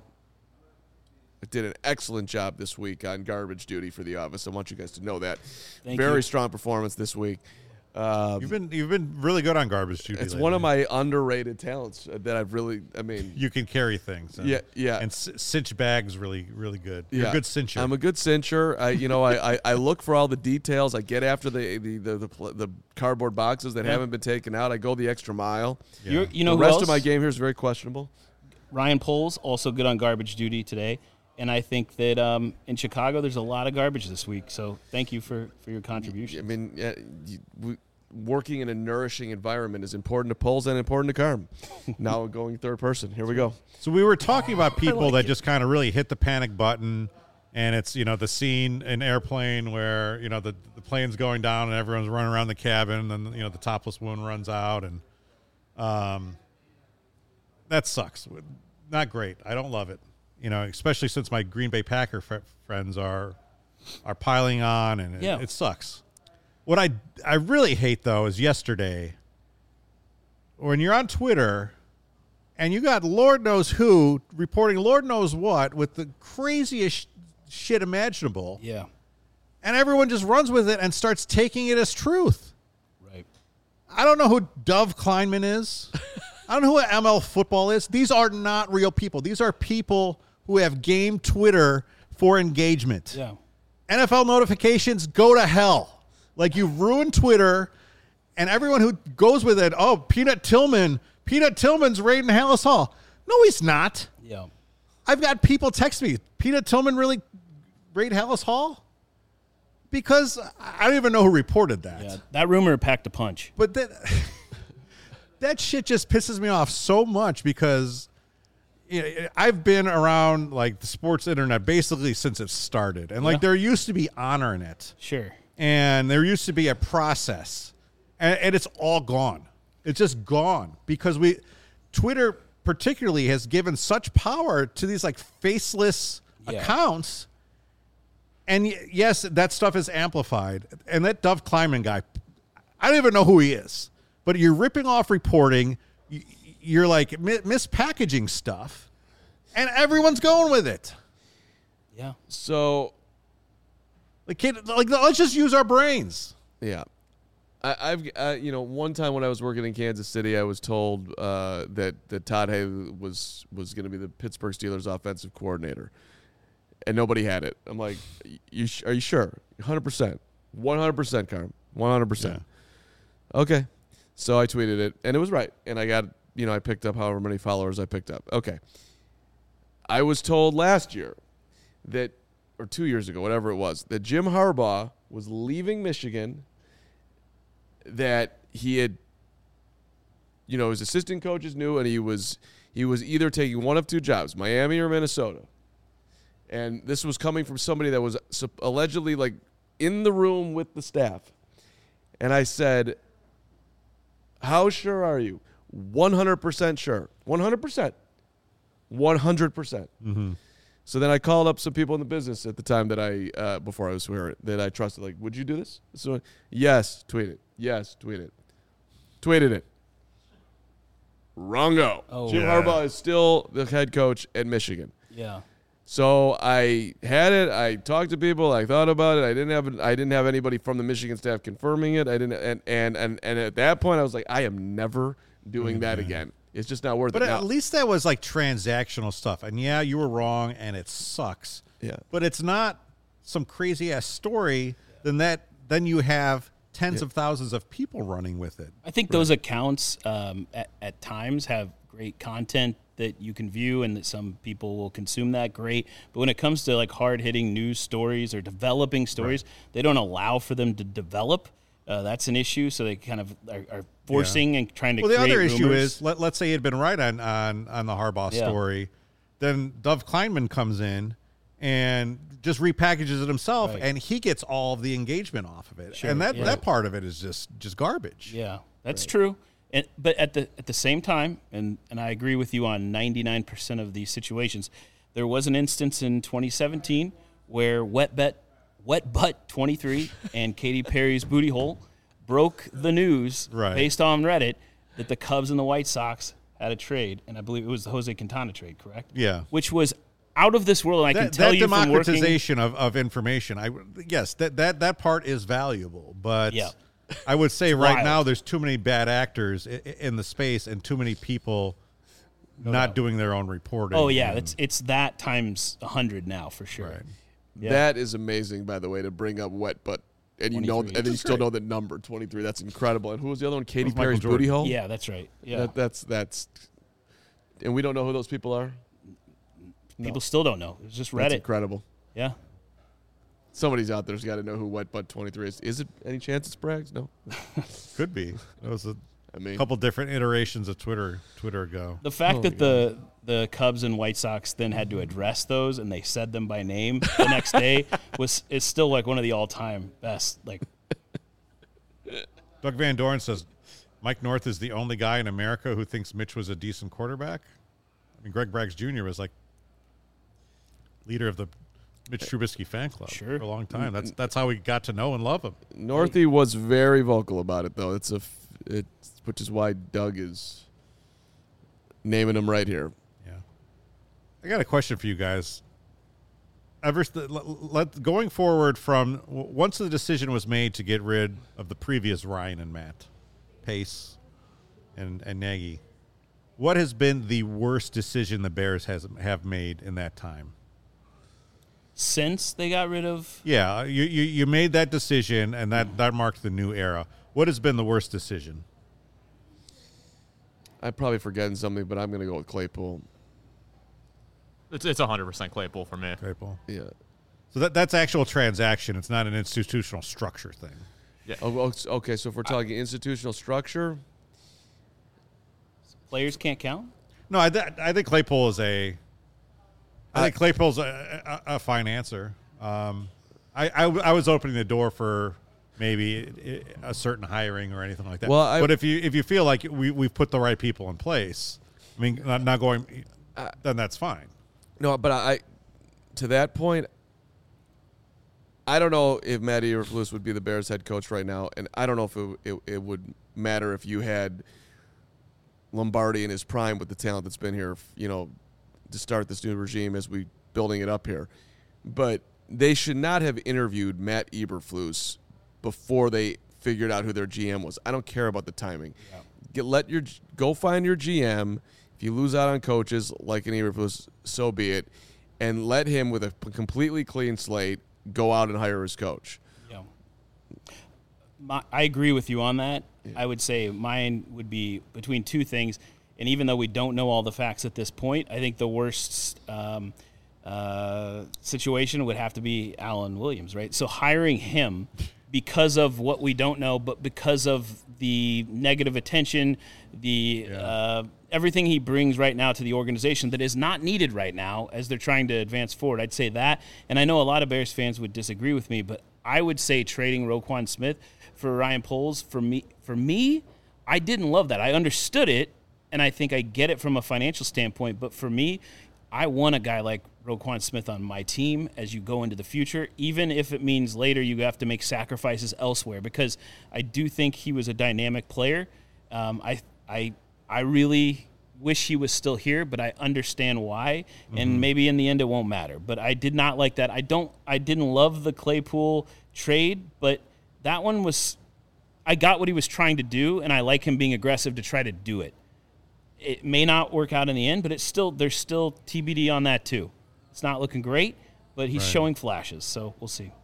C: I did an excellent job this week on garbage duty for the office. I want you guys to know that.
B: Thank
C: Very
B: you.
C: strong performance this week. Um,
A: You've been you've been really good on garbage duty.
C: it's
A: lately.
C: one of my underrated talents that I've really. I mean,
A: You can carry things. And,
C: Yeah, yeah.
A: And c- cinch bags really really good. You're
C: yeah,
A: a good cincher.
C: I'm a good cincher. I, you know, I, I, I look for all the details. I get after the the the, the, pl- the cardboard boxes that
B: Yeah.
C: haven't been taken out. I go the extra mile.
A: Yeah.
B: You're, you know
C: the
B: who
C: rest
B: else?
C: of my game here is very questionable.
B: Ryan Poles, also good on garbage duty today. And I think that um, in Chicago, there's a lot of garbage this week. So thank you for, for your contribution.
C: I mean, yeah, you, we, working in a nourishing environment is important to Poles and important to Carm. Now going third person. Here we go.
A: So we were talking about people
B: like
A: that
B: it.
A: just kind of really hit the panic button, and it's, you know, the scene in Airplane where, you know, the, the plane's going down and everyone's running around the cabin, and, you know, the topless woman runs out, and um, that sucks. Not great. I don't love it, you know, especially since my Green Bay Packer fr- friends are are piling on, and it,
B: Yeah.
A: it sucks. What I I really hate though is yesterday when you're on Twitter and you got Lord knows who reporting Lord knows what with the craziest shit imaginable,
B: Yeah,
A: and everyone just runs with it and starts taking it as truth.
B: right.
A: I don't know who Dove Kleinman is. I don't know who M L football is. These are not real people. These are people who have game Twitter for engagement.
B: Yeah.
A: N F L notifications, go to hell. Like, you've ruined Twitter, and everyone who goes with it, oh, Peanut Tillman, Peanut Tillman's raiding Hallis Hall. No, he's not.
B: Yeah.
A: I've got people text me, Peanut Tillman really raid Hallis Hall? Because I don't even know who reported that.
B: Yeah. That rumor packed a punch.
A: But that, that shit just pisses me off so much because you know, I've been around, like, the sports internet basically since it started. And, like,
B: Yeah.
A: there used to be honor in it.
B: Sure.
A: And there used to be a process, and, and it's all gone. It's just gone because we, Twitter particularly, has given such power to these like faceless
B: Yeah.
A: accounts. And y- yes, that stuff is amplified. And that Dove Kleinman guy, I don't even know who he is, but you're ripping off reporting. y- You're like mi- mispackaging stuff, and everyone's going with it.
B: Yeah.
C: So,
A: Like, kid, like let's just use our brains.
C: yeah. I, I've, uh, you know, one time when I was working in Kansas City, I was told uh, that, that Todd Haley was, was going to be the Pittsburgh Steelers offensive coordinator, and nobody had it. I'm like, you sh- are you sure? one hundred percent. one hundred percent, Carm. one hundred percent. Okay. So I tweeted it, and it was right. And I got, you know, I picked up however many followers I picked up. Okay. I was told last year that, or two years ago, whatever it was, that Jim Harbaugh was leaving Michigan, that he had, you know, his assistant coaches knew, and he was he was either taking one of two jobs, Miami or Minnesota. And this was coming from somebody that was sup- allegedly, like, in the room with the staff. And I said, how sure are you? one hundred percent sure. one hundred percent. one hundred percent.
A: Mm-hmm.
C: So then I called up some people in the business at the time that I, uh, before I was here, that I trusted. Like, would you do this? So, yes, tweet it. Yes, tweet it. Tweeted it. Wrongo.
B: Oh.
C: Jim
A: Yeah.
C: Harbaugh is still the head coach at Michigan.
B: Yeah.
C: So I had it. I talked to people. I thought about it. I didn't have. I didn't have anybody from the Michigan staff confirming it. I didn't. And and and, and at that point, I was like, I am never doing that again. It's just not worth
A: But
C: it.
A: at
C: Now-
A: least that was like transactional stuff. And yeah, you were wrong and it sucks.
C: Yeah.
A: But it's not some crazy ass story. Then that then you have tens of thousands of people running with it.
B: I think those accounts um, at, at times have great content that you can view and that some people will consume that great. But when it comes to like hard hitting news stories or developing stories, right. they don't allow for them to develop. Uh, that's an issue. So they kind of are, are forcing yeah. and trying to
A: well,
B: create
A: the other
B: rumors.
A: issue is, let, let's say he had been right on, on, on the Harbaugh yeah. story. Then Dov Kleinman comes in and just repackages it himself, right. and he gets all of the engagement off of it. Sure, and that, yeah. that part of it is just, just garbage.
B: Yeah, that's
A: right.
B: true. And, but at the at the same time, and, and I agree with you on ninety-nine percent of these situations, there was an instance in twenty seventeen where Wet Bet, Wet Butt twenty-three and Katy Perry's Booty Hole broke the news
A: right.
B: based on Reddit that the Cubs and the White Sox had a trade, and I believe it was the Jose Quintana trade, correct?
A: Yeah.
B: Which was out of this world, and I
A: that,
B: can tell
A: that
B: you from working...
A: That democratization of, of information, I, yes, that, that, that part is valuable, but...
B: Yeah.
A: I would say right
B: wild.
A: now there's too many bad actors in, in the space and too many people no not doubt. doing their own reporting.
B: Oh, yeah.
A: And,
B: it's it's that times one hundred now for sure.
A: Right.
C: Yeah. That is amazing, by the way, to bring up Wet Butt. And you know, and then you still great. know the number, twenty-three. That's incredible. And who was the other one? Katy Perry's Booty Hole?
B: Yeah, that's right. Yeah.
C: That, that's, that's, and we don't know who those people are?
B: People no. still don't know. It's just Reddit.
C: That's incredible.
B: Yeah.
C: Somebody's out there's got to know who Wet Butt twenty-three is. Is it any chance it's Braggs? No.
A: Could be. That was a
C: I mean,
A: couple different iterations of Twitter Twitter ago.
B: The fact oh that the the Cubs and White Sox then had to address those and they said them by name the next day was is still like one of the all-time best. Like
A: Doug Van Doren says Mike North is the only guy in America who thinks Mitch was a decent quarterback. I mean, Greg Braggs Junior was like leader of the Mitch Trubisky fan club
B: sure.
A: for a long time. That's that's how we got to know and love him.
C: Northie was very vocal about it, though. It's a, it's which is why Doug is naming him right here.
A: Yeah, I got a question for you guys. Ever let, let going forward from once the decision was made to get rid of the previous Ryan and Matt, Pace, and and Nagy, what has been the worst decision the Bears has have made in that time?
B: Since they got rid of...
A: Yeah, you, you, you made that decision, and that, that marked the new era. What has been the worst decision?
C: I'm probably forgetting something, but I'm going to go with Claypool.
D: It's it's one hundred percent Claypool for me.
A: Claypool.
C: Yeah.
A: So that that's actual transaction. It's not an institutional structure thing.
D: Yeah.
C: Oh, okay, so if we're talking I, institutional structure...
B: Players can't count?
A: No, I, th- I think Claypool is a... I think Claypool's a, a, a fine answer. Um, I, I, I was opening the door for maybe a certain hiring or anything like that.
C: Well, I,
A: but if you if you feel like we we've put the right people in place, I mean, not, not going, uh, then that's fine.
C: No, but I, to that point, I don't know if Matt Eberflus would be the Bears head coach right now, and I don't know if it, it, it would matter if you had Lombardi in his prime with the talent that's been here, you know, to start this new regime as we building it up here. But they should not have interviewed Matt Eberflus before they figured out who their G M was. I don't care about the timing. Yeah. Get let your go find your G M. If you lose out on coaches like an Eberflus, so be it. And let him, with a completely clean slate, go out and hire his coach.
B: Yeah. My, I agree with you on that. Yeah. I would say mine would be between two things. And even though we don't know all the facts at this point, I think the worst um, uh, situation would have to be Alan Williams, right? So hiring him because of what we don't know, but because of the negative attention, the yeah. uh, everything he brings right now to the organization that is not needed right now as they're trying to advance forward. I'd say that. And I know a lot of Bears fans would disagree with me, but I would say trading Roquan Smith for Ryan Poles, for me, for me, I didn't love that. I understood it. And I think I get it from a financial standpoint. But for me, I want a guy like Roquan Smith on my team as you go into the future, even if it means later you have to make sacrifices elsewhere, because I do think he was a dynamic player. Um, I, I, I really wish he was still here, but I understand why. Mm-hmm. And maybe in the end it won't matter. But I did not like that. I don't. I didn't love the Claypool trade, but that one was – I got what he was trying to do, and I like him being aggressive to try to do it. It may not work out in the end, but it's still there's still T B D on that too. It's not looking great, but he's right. showing flashes, so we'll see.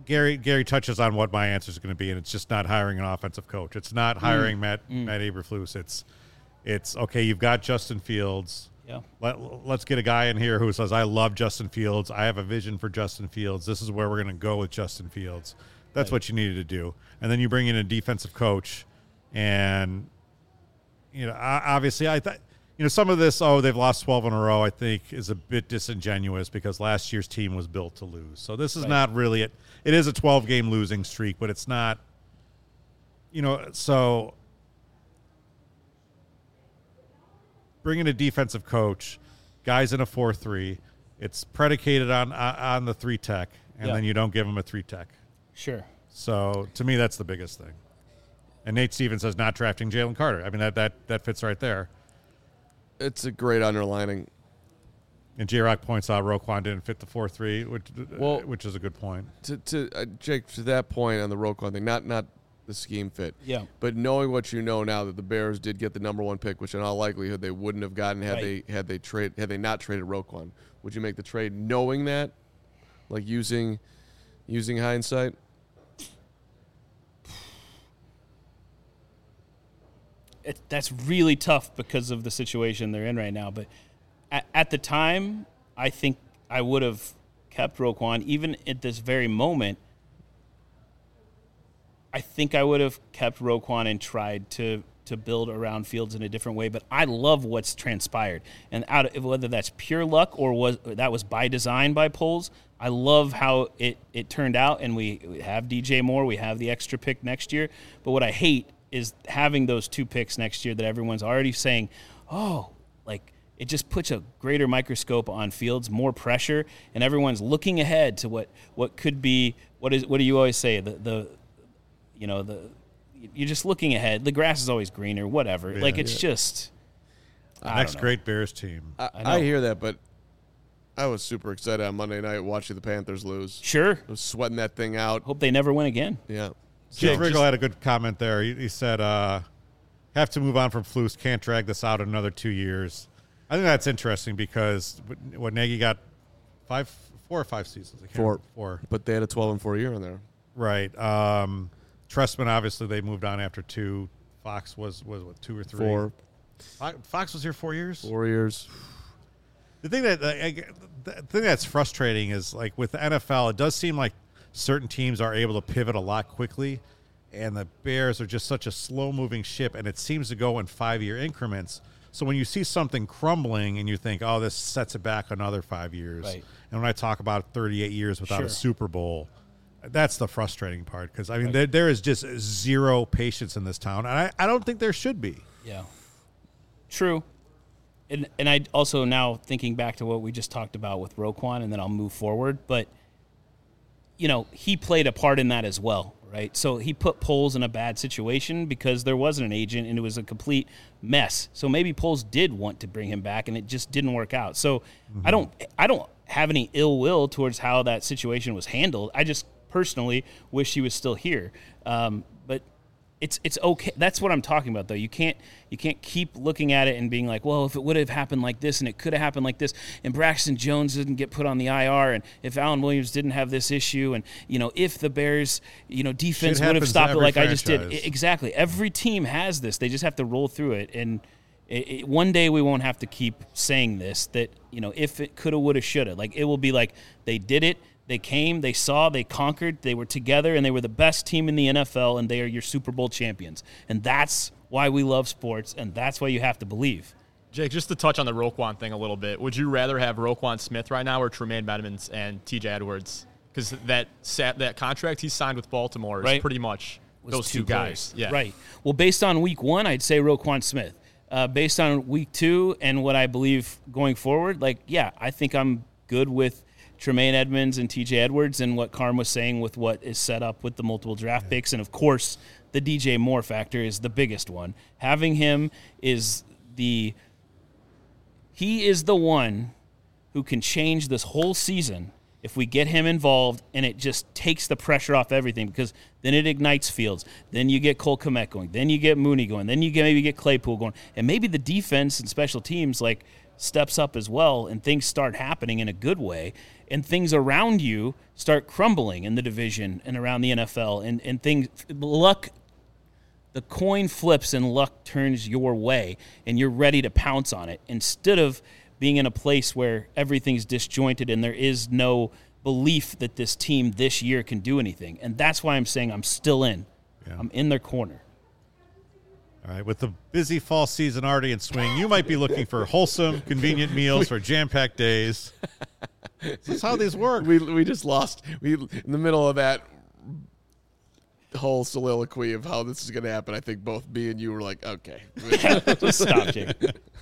A: Gary Gary touches on what my answer is going to be, and it's just not hiring an offensive coach. It's not hiring mm. Matt mm. Matt Eberflus. It's it's okay. You've got Justin Fields.
B: Yeah.
A: Let, let's get a guy in here who says, "I love Justin Fields. I have a vision for Justin Fields. This is where we're going to go with Justin Fields." That's right. What you needed to do, and then you bring in a defensive coach, and you know, obviously, I thought. You know, some of this, oh, they've lost twelve in a row, I think, is a bit disingenuous because last year's team was built to lose. So this is right. not really it. It is a twelve-game losing streak, but it's not, you know, so bring in a defensive coach, guys in a four three, it's predicated on on the three-tech, and yeah. then you don't give them a three-tech.
B: Sure.
A: So to me, that's the biggest thing. And Nate Stevens says not drafting Jalen Carter. I mean, that that that fits right there.
C: It's a great underlining.
A: And J-Rock points out Roquan didn't fit the four three, which, well, which is a good point.
C: To, to uh, Jake, to that point on the Roquan thing, not not the scheme fit,
B: yeah.
C: but knowing what you know now that the Bears did get the number one pick, which in all likelihood they wouldn't have gotten had right. they had they trade had they not traded Roquan. Would you make the trade knowing that, like using using hindsight?
B: It, that's really tough because of the situation they're in right now. But at, at the time, I think I would have kept Roquan. Even at this very moment, I think I would have kept Roquan and tried to to build around Fields in a different way. But I love what's transpired, and out of, whether that's pure luck or was that was by design by Poles, I love how it it turned out. And we, we have D J Moore, we have the extra pick next year. But what I hate is having those two picks next year that everyone's already saying, oh, like it just puts a greater microscope on Fields, more pressure, and everyone's looking ahead to what, what could be. What is what do you always say? The the you know the you're just looking ahead. The grass is always greener. Whatever. Yeah, like it's yeah. just
A: the next great Bears team.
C: I, I, I hear that, but I was super excited on Monday night watching the Panthers lose.
B: Sure,
C: I was sweating that thing out.
B: Hope they never win again.
C: Yeah.
A: Keith Riggle had a good comment there. He, he said, uh, have to move on from Flus, can't drag this out another two years. I think that's interesting because what Nagy got five, four or five seasons. I can't
C: four.
A: Remember, four.
C: But they had a twelve and four year in there.
A: Right. Um, Trestman, obviously, they moved on after two. Fox was, was what, two or three?
C: Four.
A: Fox was here four years?
C: Four years.
A: The thing that uh, the thing that's frustrating is, like, with the N F L, it does seem like certain teams are able to pivot a lot quickly, and the Bears are just such a slow-moving ship, and it seems to go in five-year increments. So when you see something crumbling and you think, oh, this sets it back another five years,
B: right.
A: and when I talk about thirty-eight years without
B: sure.
A: a Super Bowl, that's the frustrating part because, I mean,
B: right.
A: there, there is just zero patience in this town, and I, I don't think there should be.
B: Yeah. True. And, and I also now thinking back to what we just talked about with Roquan, and then I'll move forward, but you know, he played a part in that as well, right? So he put Poles in a bad situation because there wasn't an agent and it was a complete mess. So maybe Poles did want to bring him back and it just didn't work out. So mm-hmm. I don't I don't have any ill will towards how that situation was handled. I just personally wish he was still here. Um, but it's it's okay. That's what I'm talking about, though. You can't you can't keep looking at it and being like, well, if it would have happened like this and it could have happened like this, and Braxton Jones didn't get put on the I R, and if Alan Williams didn't have this issue, and you know, if the Bears, you know, defense would have stopped it like franchise. I just did. Exactly. Every team has this. They just have to roll through it, and it, it, one day we won't have to keep saying this. That you know, if it coulda, woulda, shoulda, like it will be like they did it. They came, they saw, they conquered, they were together, and they were the best team in the N F L, and they are your Super Bowl champions. And that's why we love sports, and that's why you have to believe.
D: Jake, just to touch on the Roquan thing a little bit, would you rather have Roquan Smith right now or Tremaine Edmonds and T J Edwards? Because that that contract he signed with Baltimore is
B: right.
D: pretty much
B: Was
D: those two, two guys. Yeah.
B: Right. Well, based on week one, I'd say Roquan Smith. Uh, based on week two and what I believe going forward, like, yeah, I think I'm good with Tremaine Edmonds and T J Edwards and what Carm was saying with what is set up with the multiple draft yeah. picks. And, of course, the D J Moore factor is the biggest one. Having him is the – he is the one who can change this whole season if we get him involved, and it just takes the pressure off everything because then it ignites Fields. Then you get Cole Kmet going. Then you get Mooney going. Then you get, maybe get Claypool going. And maybe the defense and special teams, like – steps up as well and things start happening in a good way and things around you start crumbling in the division and around the N F L and, and things luck the coin flips and luck turns your way and you're ready to pounce on it instead of being in a place where everything's disjointed and there is no belief that this team this year can do anything. And that's why I'm saying I'm still in. Yeah. I'm in their corner.
A: All right, with the busy fall season already in swing, you might be looking for wholesome, convenient meals for jam-packed days. This is how these work.
C: We we just lost. We in the middle of that whole soliloquy of how this is going to happen. I think both me and you were like, okay.
B: Just stop, Jake.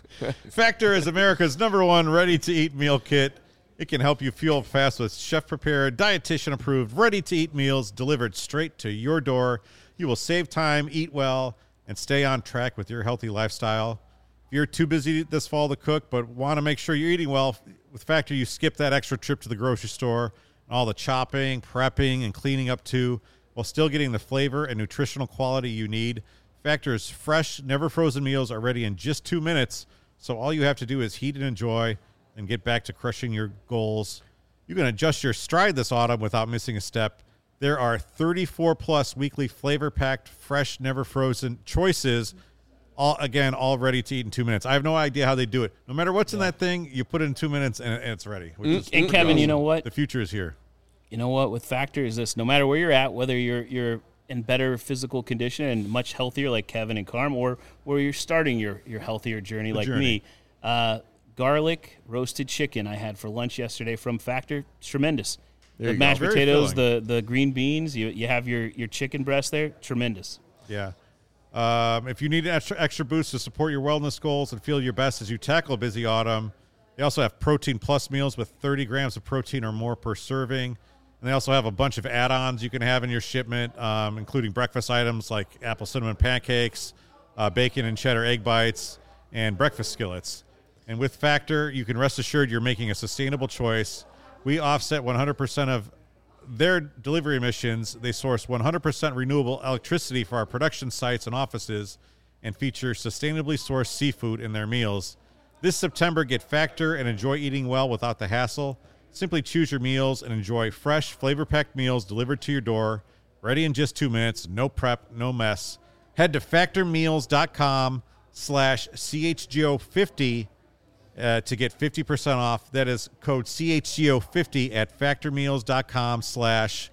A: Factor is America's number one ready-to-eat meal kit. It can help you fuel fast with chef-prepared, dietitian-approved, ready-to-eat meals delivered straight to your door. You will save time, eat well, and stay on track with your healthy lifestyle. If you're too busy this fall to cook but want to make sure you're eating well, with Factor, you skip that extra trip to the grocery store and all the chopping, prepping, and cleaning up too, while still getting the flavor and nutritional quality you need. Factor's fresh, never-frozen meals are ready in just two minutes, so all you have to do is heat and enjoy and get back to crushing your goals. You can adjust your stride this autumn without missing a step. There are thirty-four plus weekly flavor-packed, fresh, never-frozen choices, all again, all ready to eat in two minutes. I have no idea how they do it. No matter what's yeah. in that thing, you put it in two minutes and, and it's ready. Which
B: mm,
A: is
B: and Kevin, awesome. You know what?
A: The future is here.
B: You know what? With Factor is this: no matter where you're at, whether you're you're in better physical condition and much healthier, like Kevin and Carm, or where you're starting your your healthier journey, the like journey. me. Uh, garlic roasted chicken I had for lunch yesterday from Factor. It's tremendous. There the mashed go. potatoes, the, the green beans, you you have your, your chicken breast there. Tremendous.
A: Yeah. Um, if you need an extra, extra boost to support your wellness goals and feel your best as you tackle a busy autumn, they also have Protein Plus meals with thirty grams of protein or more per serving. And they also have a bunch of add-ons you can have in your shipment, um, including breakfast items like apple cinnamon pancakes, uh, bacon and cheddar egg bites, and breakfast skillets. And with Factor, you can rest assured you're making a sustainable choice. We offset one hundred percent of their delivery emissions. They source one hundred percent renewable electricity for our production sites and offices and feature sustainably sourced seafood in their meals. This September, get Factor and enjoy eating well without the hassle. Simply choose your meals and enjoy fresh, flavor-packed meals delivered to your door, ready in just two minutes, no prep, no mess. Head to factormeals.com slash CHGO50 Uh, to get fifty percent off. That is code C H G O fifty at factormeals.com slash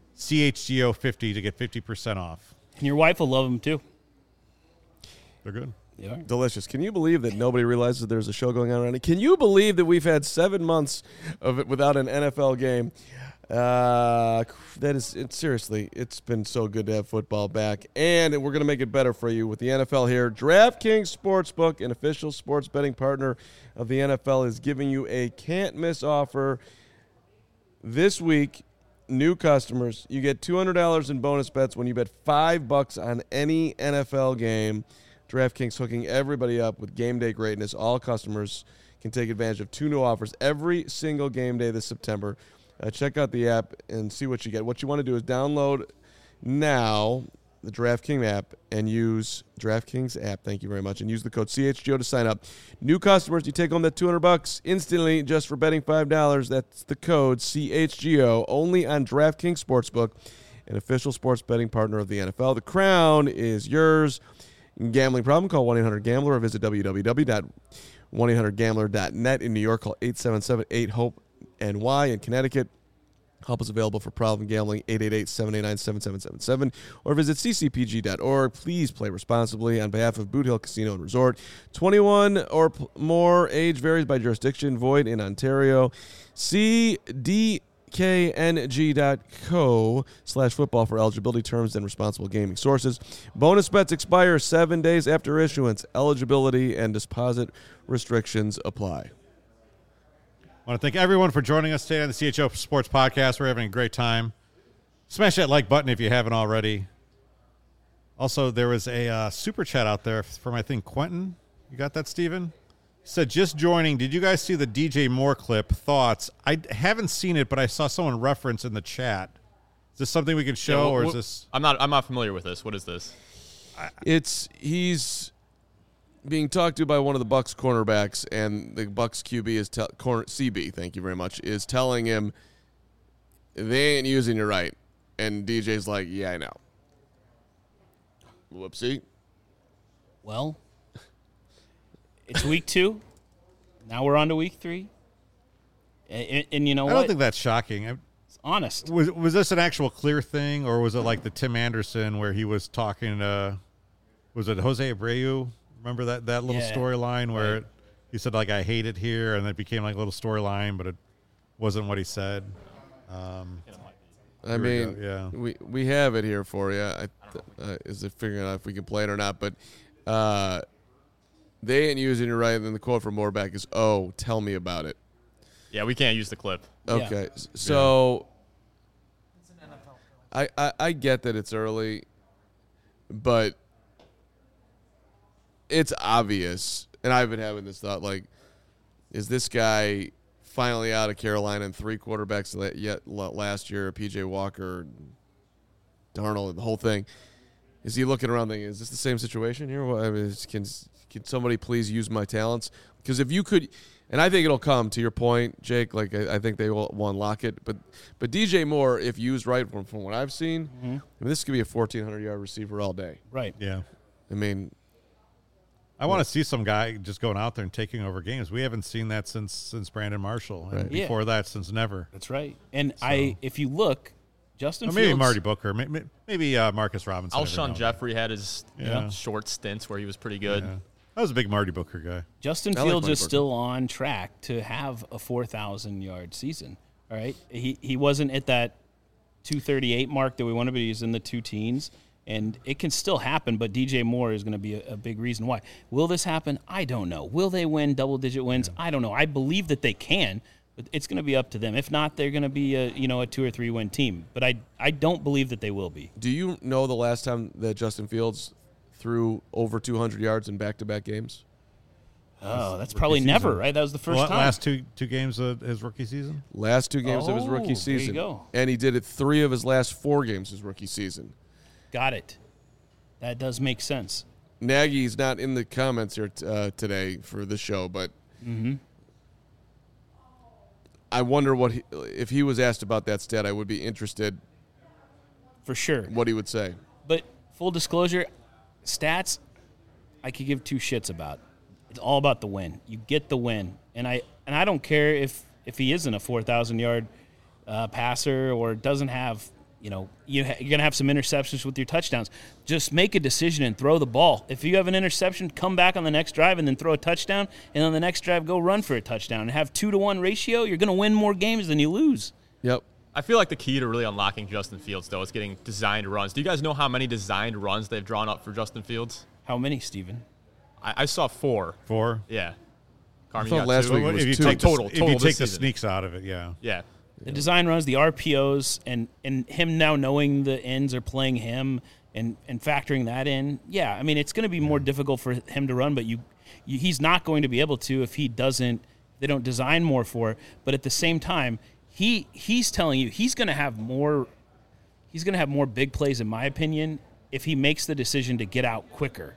A: CHGO50 to get fifty percent off.
B: And your wife will love them too.
A: They're good.
B: Yeah.
C: Delicious. Can you believe that nobody realizes there's a show going on around it? Can you believe that we've had seven months of it without an N F L game? Uh, that is it, seriously, it's been so good to have football back, and we're going to make it better for you with the N F L here. DraftKings Sportsbook, an official sports betting partner of the N F L, is giving you a can't-miss offer this week. New customers, you get two hundred dollars in bonus bets when you bet five bucks on any N F L game. DraftKings hooking everybody up with game day greatness. All customers can take advantage of two new offers every single game day this September. Uh, check out the app and see what you get. What you want to do is download now the DraftKings app and use DraftKings app. Thank you very much. And use the code C H G O to sign up. New customers, you take home that two hundred bucks instantly just for betting five dollars. That's the code C H G O only on DraftKings Sportsbook, an official sports betting partner of the N F L. The crown is yours. Gambling problem? Call one eight hundred gambler or visit w w w dot one eight hundred gambler dot net. In New York, call eight seven seven eight hope N Y. In Connecticut, help is available for problem gambling, eight eight eight, seven eight nine, seven seven seven seven, or visit c c p g dot org. Please play responsibly on behalf of Boot Hill Casino and Resort. twenty-one or p- more, age varies by jurisdiction, void in Ontario. C D K N G dot co slash football for eligibility terms and responsible gaming sources. Bonus bets expire seven days after issuance. Eligibility and deposit restrictions apply.
A: I want to thank everyone for joining us today on the C H O Sports Podcast. We're having a great time. Smash that like button if you haven't already. Also, there was a uh, super chat out there from, I think, Quentin. You got that, Steven? He said, just joining. Did you guys see the D J Moore clip? Thoughts? I haven't seen it, but I saw someone reference in the chat. Is this something we can show, yeah, well, or is
D: well,
A: this?
D: I'm not. I'm not familiar with this. What is this?
C: It's he's being talked to by one of the Bucks cornerbacks, and the Bucks Q B is te- corner C B. Thank you very much. Is telling him they ain't using you right, and D J's like, "Yeah, I know." Whoopsie.
B: Well, it's week two. Now we're on to week three. And, and, and you know
A: I
B: what?
A: don't think that's shocking. I,
B: it's honest.
A: Was was this an actual clear thing, or was it like the Tim Anderson where he was talking to, was it Jose Abreu? Remember that, that little
B: Yeah.
A: storyline where
B: Right.
A: it, he said, like, I hate it here, and it became like a little storyline, but it wasn't what he said. Um,
C: I
A: Here we
C: mean,
A: go, yeah.
C: we we have it here for you. I, uh, is it figuring out if we can play it or not? But uh, they ain't using it right. And then the quote from Moorback is, "Oh, tell me about it."
D: Yeah, we can't use the clip.
C: Okay, s- so I, I I get that it's early, but it's obvious, and I've been having this thought: like, is this guy finally out of Carolina and three quarterbacks la- yet la- last year, P J Walker, Darnold, the whole thing? Is he looking around thinking, is this the same situation here? Well, I mean, is- can can somebody please use my talents? Because if you could, and I think it'll come to your point, Jake. Like I, I think they will, will unlock it, but but D J Moore, if used right from, from what I've seen,
B: Mm-hmm.
C: I mean, this could be a fourteen hundred yard receiver all day.
B: Right.
A: yeah.
C: I mean,
A: I want to see some guy just going out there and taking over games. We haven't seen that since since Brandon Marshall, and
C: Right.
B: Yeah.
A: before that, since never.
B: That's right. And I, if you look, Justin
A: Or maybe
B: Fields,
A: Marty Booker, may- may- maybe uh, Marcus Robinson. every now
D: Alshon
A: and
D: Jeffrey had his you know,
A: Yeah.
D: short stints where he was pretty good.
A: then. Yeah. I was a big Marty Booker guy.
B: Justin
C: I like
B: Fields
C: Marty
B: is
C: Booker.
B: still on track to have a four thousand yard season. All right. He he wasn't at that two thirty-eight mark that we wanted, but he's in the two teens. And it can still happen, but D J Moore is going to be a, a big reason why. Will this happen? I don't know. Will they win double-digit wins? I don't know. I believe that they can, but it's going to be up to them. If not, they're going to be a you know a two or three win team. But I I don't believe that they will be.
C: do you know the last time that Justin Fields threw over two hundred yards in back to back games?
B: Oh, that's probably never
A: season.
B: right. That was the first
A: Well,
B: time.
A: last two two games of his rookie season.
C: Last two games of his
B: Oh,
C: rookie
B: there you
C: season,
B: go.
C: and he did it three of his last four games his rookie season.
B: Got it. That does make sense.
C: Nagy's not in the comments here t- uh, today for the show, but I wonder what he, if he was asked about that stat. I would be interested
B: For sure.
C: what he would say.
B: But full disclosure, stats, I could give two shits about. It's all about the win. You get the win, and I and I don't care if if he isn't a four thousand yard uh, passer or doesn't have. You know, you ha- you're gonna have some interceptions with your touchdowns. Just make a decision and throw the ball. If you have an interception, come back on the next drive and then throw a touchdown, and on the next drive go run for a touchdown and have two to one ratio. You're gonna win more games than you lose.
C: Yep.
D: I feel like the key to really unlocking Justin Fields, though, is getting designed runs. Do you guys know how many designed runs they've drawn up for Justin Fields?
B: How many, Steven?
D: I, I saw four.
A: Four.
D: Yeah. Carmen,
C: thought
D: you got
C: last
D: two?
C: week
A: Well,
C: was
A: if you
C: two.
A: take
D: Total-
A: the,
D: total
A: if you
D: this
A: take the
D: season.
A: sneaks out of it, yeah.
D: Yeah.
B: The design runs, the R P Os, and, and him now knowing the ends are playing him and, and factoring that in. Yeah, I mean, it's going to be more difficult for him to run, but you, you he's not going to be able to if he doesn't, they don't design more for it. But at the same time, he he's telling you he's going to have more, he's going to have more big plays, in my opinion, if he makes the decision to get out quicker.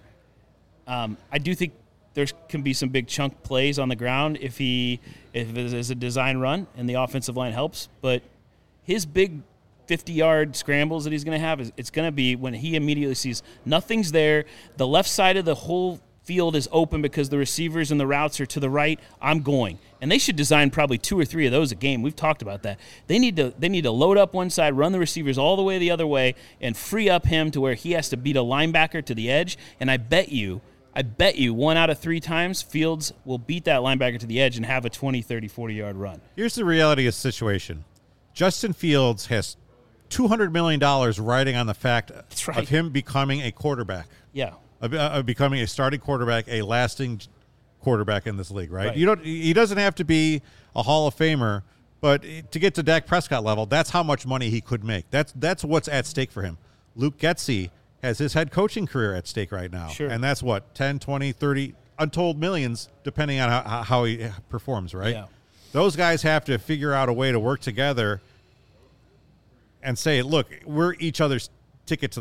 B: Um, I do think there can be some big chunk plays on the ground if he if it is a design run and the offensive line helps. But his big fifty-yard scrambles that he's going to have, is it's going to be when he immediately sees nothing's there. The left side of the whole field is open because the receivers and the routes are to the right. I'm going. And they should design probably two or three of those a game. We've talked about that. They need to they need to load up one side, run the receivers all the way the other way, and free up him to where he has to beat a linebacker to the edge. And I bet you I bet you one out of three times Fields will beat that linebacker to the edge and have a twenty, thirty, forty-yard run.
A: Here's the reality of the situation. Justin Fields has two hundred million dollars riding on the fact
B: right.
A: of him becoming a quarterback,
B: Yeah.
A: of, of becoming a starting quarterback, a lasting quarterback in this league, right?
B: Right.
A: You don't. He doesn't have to be a Hall of Famer, but to get to Dak Prescott level, that's how much money he could make. That's that's what's at stake for him. Luke Getsy has his head coaching career at stake right now.
B: Sure.
A: And that's what, ten, twenty, thirty, untold millions, depending on how, how he performs, right?
B: Yeah.
A: Those guys have to figure out a way to work together and say, look, we're each other's ticket to the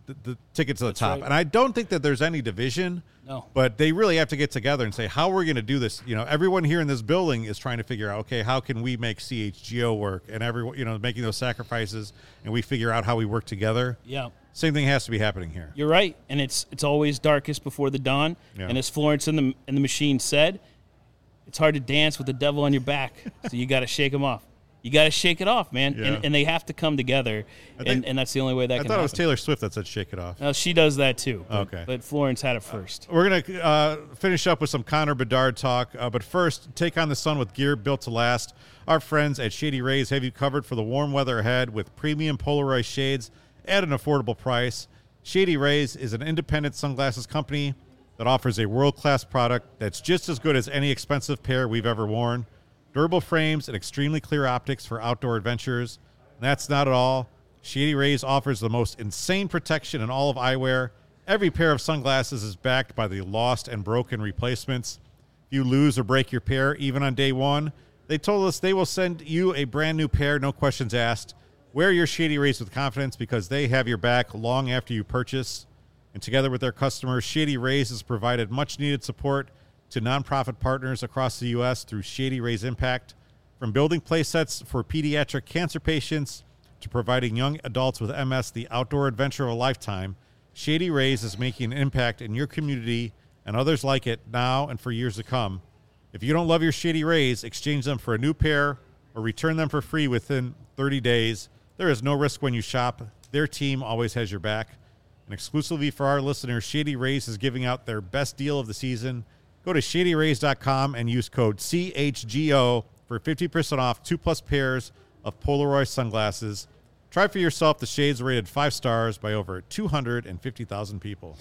A: the, the ticket to the
B: That's
A: top.
B: right.
A: And I don't think that there's any division.
B: No.
A: But they really have to get together and say, how are we going to do this? You know, everyone here in this building is trying to figure out, okay, how can we make C H G O work? And everyone, you know, making those sacrifices, and we figure out how we work together.
B: Yeah.
A: Same thing has to be happening here.
B: You're right, and it's it's always darkest before the dawn.
A: Yeah.
B: And as Florence in the in the machine said, it's hard to dance with the devil on your back, so you got to shake him off. You got to shake it off, man,
A: Yeah.
B: and, and they have to come together,
A: think-
B: and, and that's the only way that
A: I
B: can
A: thought
B: happen.
A: it was Taylor Swift that said shake it off.
B: Now, she does that too. But,
A: Okay.
B: but Florence had it first.
A: We're going to uh, finish up with some Connor Bedard talk, uh, but first, take on the sun with gear built to last. Our friends at Shady Rays have you covered for the warm weather ahead with premium Polaroid shades at an affordable price. Shady Rays is an independent sunglasses company that offers a world-class product that's just as good as any expensive pair we've ever worn. Durable frames and extremely clear optics for outdoor adventures. And that's not at all. Shady Rays offers the most insane protection in all of eyewear. Every pair of sunglasses is backed by the lost and broken replacements. If you lose or break your pair, even on day one, they told us they will send you a brand new pair, no questions asked. Wear your Shady Rays with confidence because they have your back long after you purchase. And together with their customers, Shady Rays has provided much-needed support to nonprofit partners across the U S through Shady Rays Impact. From building play sets for pediatric cancer patients to providing young adults with M S the outdoor adventure of a lifetime, Shady Rays is making an impact in your community and others like it now and for years to come. If you don't love your Shady Rays, exchange them for a new pair or return them for free within thirty days. There is no risk when you shop. Their team always has your back. And exclusively for our listeners, Shady Rays is giving out their best deal of the season. Go to shady rays dot com and use code C H G O for fifty percent off two plus pairs of Polaroid sunglasses. Try for yourself the shades rated five stars by over two hundred fifty thousand people.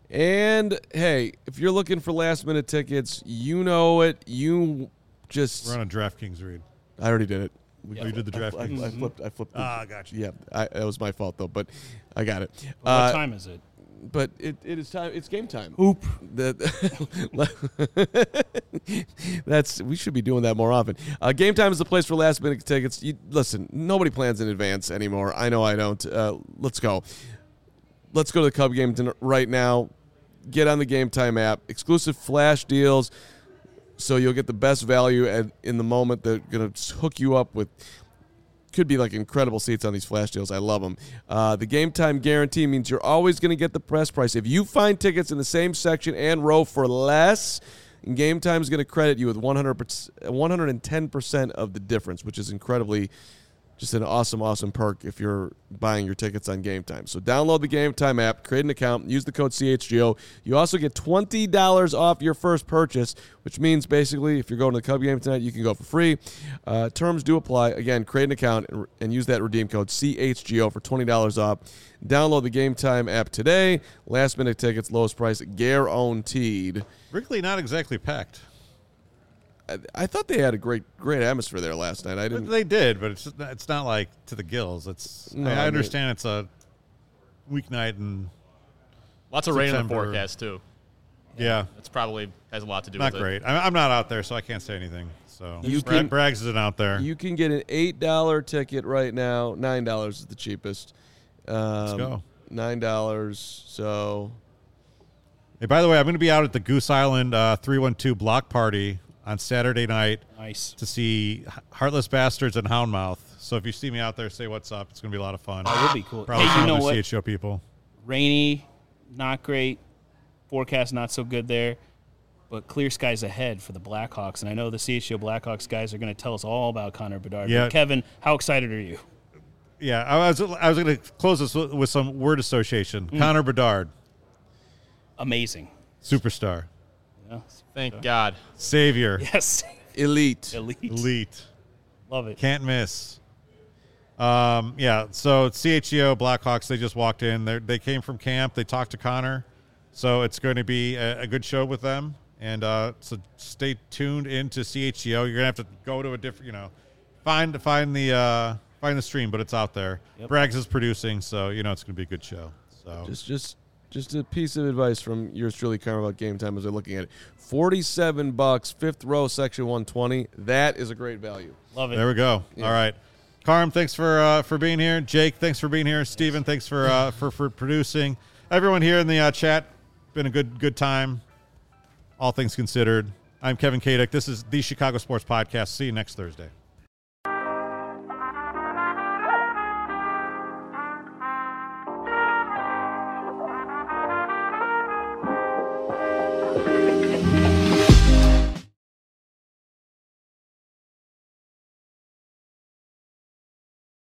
C: And, hey, if you're looking for last-minute tickets, you know it. You just...
A: We're on a DraftKings read.
C: I already did it. We,
A: Oh, you did the
C: I, I,
A: DraftKings.
C: I flipped. I flipped. the-
A: Ah, gotcha.
C: Yeah, I, that was my fault, though, but I got it.
B: What
C: Uh,
B: time is it?
C: But it, it is time. It's game time.
B: Oop.
C: That that's we should be doing that more often. Uh, game time is the place for last minute tickets. You, listen, nobody plans in advance anymore. I know I don't. Uh, let's go. Let's go to the Cub game ton- right now. Get on the Game Time app. Exclusive flash deals, so you'll get the best value at, in the moment. They're gonna hook you up with. Could be like incredible seats on these flash deals. I love them. Uh, the Game Time guarantee means you're always going to get the press price. If you find tickets in the same section and row for less, Game Time is going to credit you with one hundred percent, one hundred ten percent of the difference, which is incredibly just an awesome, awesome perk if you're buying your tickets on Game Time. So download the Game Time app, create an account, use the code C H G O. You also get twenty dollars off your first purchase, which means basically if you're going to the Cub game tonight, you can go for free. Uh, terms do apply. Again, create an account and, and use that redeem code C H G O for twenty dollars off. Download the Game Time app today. Last minute tickets, lowest price guaranteed.
A: Wrigley not exactly packed.
C: I, I thought they had a great, great atmosphere there last night. I didn't.
A: They did, but it's it's not like to the gills. It's
C: No,
A: I,
C: I mean-
A: understand it's a weeknight and
D: Lots of rain in the
A: September.
D: forecast, too.
A: yeah,
D: It's probably has a lot to do
A: not
D: with
A: great. I, I'm not out there, so I can't say anything. So
C: You
A: Bragg,
C: can-
A: Braggs isn't out there.
C: You can get an eight dollar ticket right now. Nine dollars is the cheapest. Um,
A: Let's go.
C: Nine dollars. So
A: Hey, by the way, I'm going to be out at the Goose Island uh, three one two block party on Saturday night
B: Nice.
A: to see Heartless Bastards and Houndmouth. So if you see me out there, say what's up. It's going to be a lot of fun.
B: That would be cool.
A: Probably
B: Hey,
A: some
B: you know
A: other
B: what?
A: C H O people.
B: Rainy, not great. Forecast not so good there. But clear skies ahead for the Blackhawks. And I know the C H O Blackhawks guys are going to tell us all about Connor Bedard.
A: Yeah.
B: But Kevin, how excited are you?
A: Yeah, I was I was going to close this with, with some word association.
B: Mm.
A: Connor Bedard,
B: Amazing.
A: superstar,
B: Yeah.
D: Thank God.
A: savior,
B: Yes.
C: elite.
B: Elite.
A: elite,
B: Love it.
A: can't miss. Um, yeah, so C H E O Blackhawks, they just walked in. They they came from camp. They talked to Connor. So it's going to be a, a good show with them. And uh, so stay tuned into C H E O. You're going to have to go to a different, you know, find find the uh, find the stream, but it's out there.
B: Yep.
A: Braggs is producing, so you know it's going to be a good show. So
C: Just, just, just a piece of advice from yours truly, Connor, about Game Time as they're looking at it. Forty-seven bucks, fifth row, section one twenty. That is a great value.
B: Love it.
A: there we go.
C: Yeah.
A: All right. Carm, thanks for uh, for being here. Jake, thanks for being here. Steven, thanks for uh, for for producing. Everyone here in the uh, chat, been a good good time. All things considered, I'm Kevin Kaduk. This is the Chicago Sports Podcast. See you next Thursday.